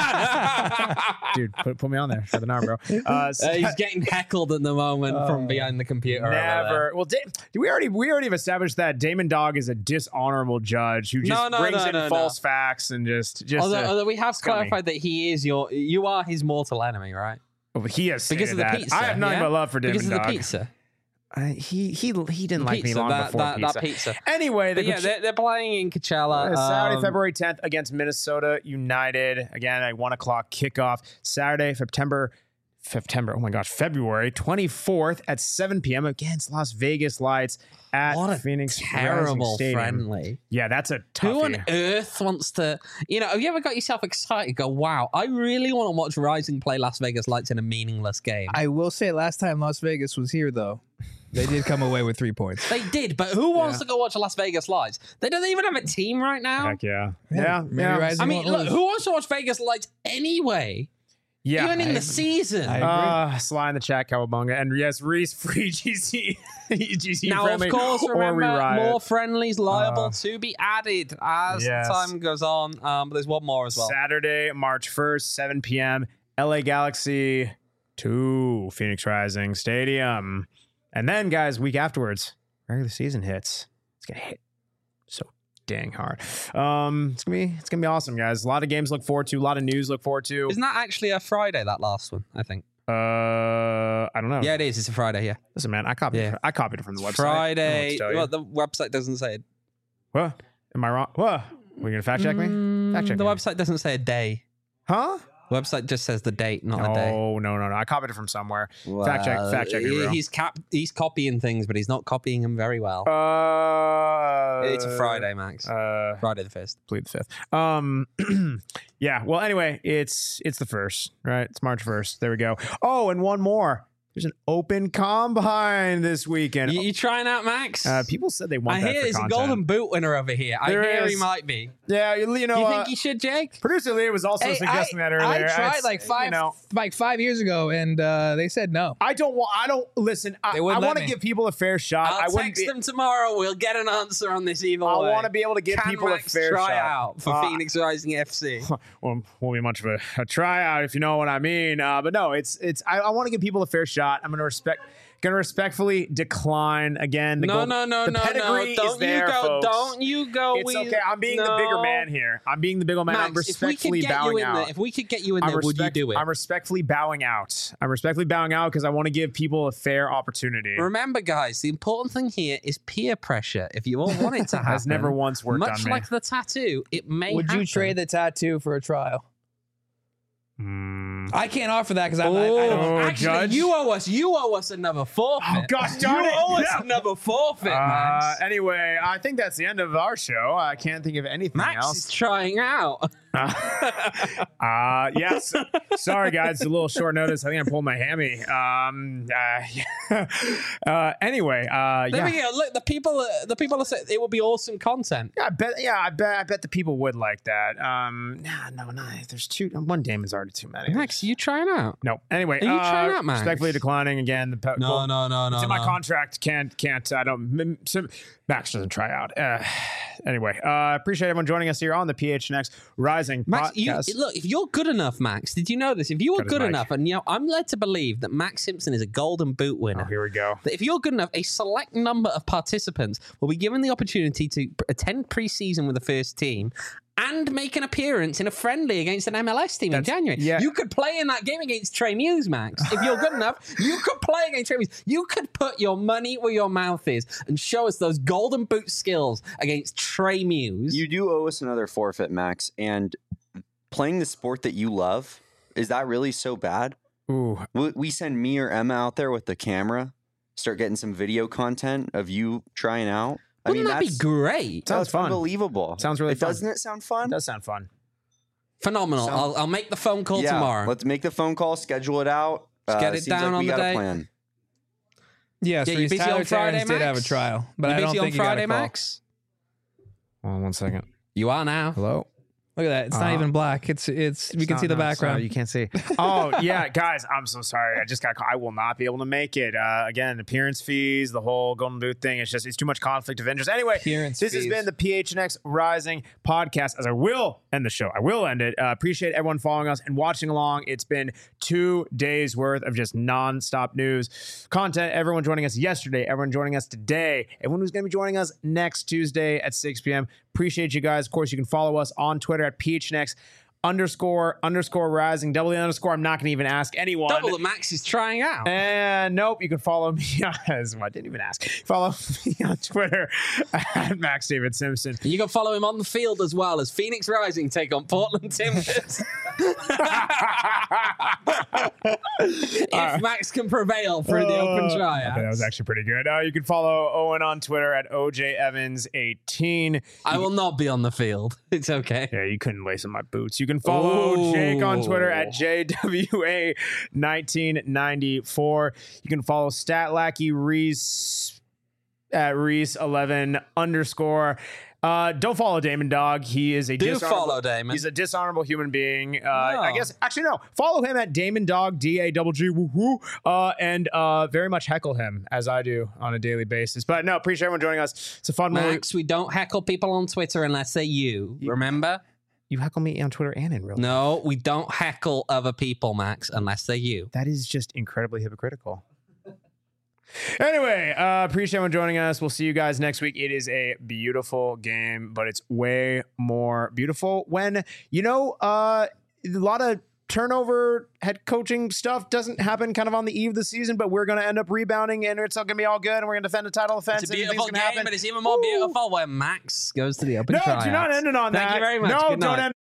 on? Dude, put, put me on there. Shred the Nar, bro. Uh, Uh, he's getting heckled at the moment from behind the computer. over there. Never. Well, da- we already we already have established that Damon Dog is a dishonorable judge who just No, no, brings no, in no, false facts and just just. Although, uh, although we have scummy. clarified that he is your, you are his mortal enemy, right? oh, he has Because of stated the that. pizza. I have nothing yeah? but love for Damon Because of Dog. the pizza. Uh, he he he didn't like me pizza, long that, before that, pizza. that pizza. Anyway, the But yeah, Coach- they're, they're playing in Coachella. Uh, Saturday, um, February tenth against Minnesota United. Again, a one o'clock kickoff. Saturday, September, September. Oh my gosh, February twenty-fourth at seven p.m. against Las Vegas Lights at What a Phoenix terrible Rising Stadium. friendly. Yeah, that's a Who on toughie. earth wants to, you know, have you ever got yourself excited? Go, wow, I really want to watch Rising play Las Vegas Lights in a meaningless game. I will say, last time Las Vegas was here, though, they did come away with three points. They did, but who wants to go watch Las Vegas Lights? They don't even have a team right now. Heck yeah, Yeah, yeah, maybe yeah. Rising I mean, won't look, lose. who wants to watch Vegas Lights anyway? yeah. Even in I- the season. I agree. Uh, Sly in the chat, Cowabunga, and yes, Reese free G C, G C Now, friendly, of course, or remember, we riot. more friendlies liable Uh, to be added as yes. time goes on. Um, but there's one more as well. Saturday, March first, seven p.m. L A Galaxy to Phoenix Rising Stadium. And then, guys, week afterwards, regular season hits, it's gonna hit so dang hard. Um, it's gonna be it's gonna be awesome, guys. A lot of games to look forward to, a lot of news to look forward to. Isn't that actually a Friday, that last one, I think? Uh, I don't know. Yeah, it is. It's a Friday, yeah. Listen, man, I copied. Yeah. It, I copied it from the website. Friday. I don't know Well, what to tell you. the website doesn't say it. What? Am I wrong? What? Were you gonna fact check me? Fact check The me. website doesn't say a day. Huh? The website just says the date, not a day. Oh no, no, no! I copied it from somewhere. Fact check. Fact check me, He- bro. He's cap. He's copying things, but he's not copying them very well. Uh, it's a Friday, Max. Uh, Friday the first. plead the fifth. Um, yeah. Well, anyway, it's it's the first, right? It's March first. There we go. Oh, and one more. There's an open combine this weekend. You, you trying out, Max? Uh, people said they want I that hear for there's a content. golden boot winner over here. There I hear he is. might be. Yeah, you, you know. Do you uh, think he should, Jake? Producer Leah was also Hey, suggesting I, that earlier. I tried It's, like five, You know, like five years ago, and uh, they said no. I don't want. I don't listen. I, They I wouldn't want let to me. give people a fair shot. I I'll wouldn't text be. them tomorrow. We'll get an answer on this evil I way. want to be able to give Can people Max a fair try shot. out for Uh, Phoenix Rising F C? Well, won't be much of a, a tryout if you know what I mean. Uh, but no, it's it's. I, I want to give people a fair shot. I'm going to respect. Going to respectfully decline again. The No, gold, no, no, the no, pedigree no! is Don't there, you go! folks. Don't you go! It's we, okay. I'm being the bigger no. man here. I'm being the bigger man. I'm Max, if we respectfully could get bowing you in out. there, if we could get you in I'm there, would you respect- do it? I'm respectfully bowing out. I'm respectfully bowing out because I want to give people a fair opportunity. Remember, guys, the important thing here is peer pressure. If you all want it to happen, Has never once worked much on me. like the tattoo, it may. Would happen. you trade the tattoo for a trial? Mm. I can't offer that because I'm. I, I Oh, don't. Oh, actually, Judge? you owe us. You owe us another forfeit. Oh, gosh darn you it. owe us Yeah. another forfeit, Uh, Max. anyway, I think that's the end of our show. I can't think of anything Max else. is trying out. Uh, yes. Sorry, guys. It's a little short notice. I think I pulled my hammy. Um, uh, yeah. uh, anyway, uh, There yeah. we go. Look, the people. Uh, the people are saying it will be awesome content. Yeah, I bet. Yeah, I bet. I bet the people would like that. Um, nah, no, no. There's two. One Damon's already too many. Max, are you trying out? No. Anyway, Are you uh, trying out, Max? respectfully declining again. The pe- goal- no, no, It's in my contract. Can't. Can't. I don't. m- Some, Max doesn't try out. Uh, anyway, uh, appreciate everyone joining us here on the P H N X Rising Max, you, podcast. look, if you're good enough, Max, did you know this? If you were Got his good mic. enough, and you know, I'm led to believe that Max Simpson is a golden boot Oh, winner. here we go. That if you're good enough, a select number of participants will be given the opportunity to p- attend preseason with the first team and make an appearance in a friendly against an M L S team in That's- January. yeah. You could play in that game against Trey Muse, Max. If you're good enough, you could play against Trey Muse. You could put your money where your mouth is and show us those golden boot skills against Trey Muse. You do owe us another forfeit, Max. And playing the sport that you love, is that really so bad? Ooh. We, we send me or Emma out there with the camera, start getting some video content of you trying out. I Wouldn't mean, that be that's, great? Sounds that's fun. unbelievable. Sounds really it, fun. Doesn't it sound fun? It does sound fun. Phenomenal. Sound- I'll, I'll make the phone call yeah, tomorrow. let's make the phone call, schedule it out. Let's get it seems down like on we the got day. a plan. Yeah, so Yeah, you he's busy Tyler on Friday, Terrence did have a Max? trial, but you I don't busy think on he got a Friday, call. Max? Hold on one second. You are now. Hello. Look at that. It's not Uh, even black. It's it's. We can It's see not- the no, background. sorry, you can't see. Oh yeah, guys, I'm so sorry. I just got. I will not be able to make it. Uh, again, appearance fees, the whole golden boot thing. It's just it's too much conflict of interest. Anyway, Appearance this has fees. been the P H N X Rising podcast. As I will end the show, I will end it. Uh, appreciate everyone following us and watching along. It's been two days worth of just nonstop news content. Everyone joining us yesterday. Everyone joining us today. Everyone who's going to be joining us next Tuesday at six p.m. Appreciate you guys. Of course, you can follow us on Twitter at P H N X underscore underscore rising double the underscore. I'm not going to even ask anyone. Double that Max is trying out. And nope, you can follow me as I didn't even ask. Follow me on Twitter at Max David Simpson. You can follow him on the field as well as Phoenix Rising take on Portland Timbers. If Max can prevail through the open Uh, tryout. okay, that was actually pretty good. Uh, you can follow Owen on Twitter at O J Evans eighteen. I will not be on the field. It's okay. Yeah, you couldn't lace in my boots. You can follow Ooh. Jake on Twitter at J W A nineteen ninety-four. You can follow Statlackey Reese at Reese eleven underscore. Uh, don't follow Damon Dog. He is a Do dishonorable, follow Damon. He's a dishonorable human being. Uh, I No. guess actually no. Follow him at Damon Dog D A double G woo woo. Uh, and uh, very much heckle him as I do on a daily basis. But no, appreciate everyone joining us. It's a fun movie. Max, we don't heckle people on Twitter unless they're you. Remember? You heckle me on Twitter and in real life. No, we don't heckle other people, Max, unless they're you. That is just incredibly hypocritical. Anyway, uh, appreciate everyone joining us. We'll see you guys next week. It is a beautiful game, but it's way more beautiful when, you know, uh, a lot of turnover head coaching stuff doesn't happen kind of on the eve of the season, but we're going to end up rebounding and it's all going to be all good and we're going to defend the title offense. It's a and beautiful things game, can happen. but it's even more Woo! beautiful when Max goes to the open No, tryouts. do not end it on Thank that. you very much. No, Good don't night. end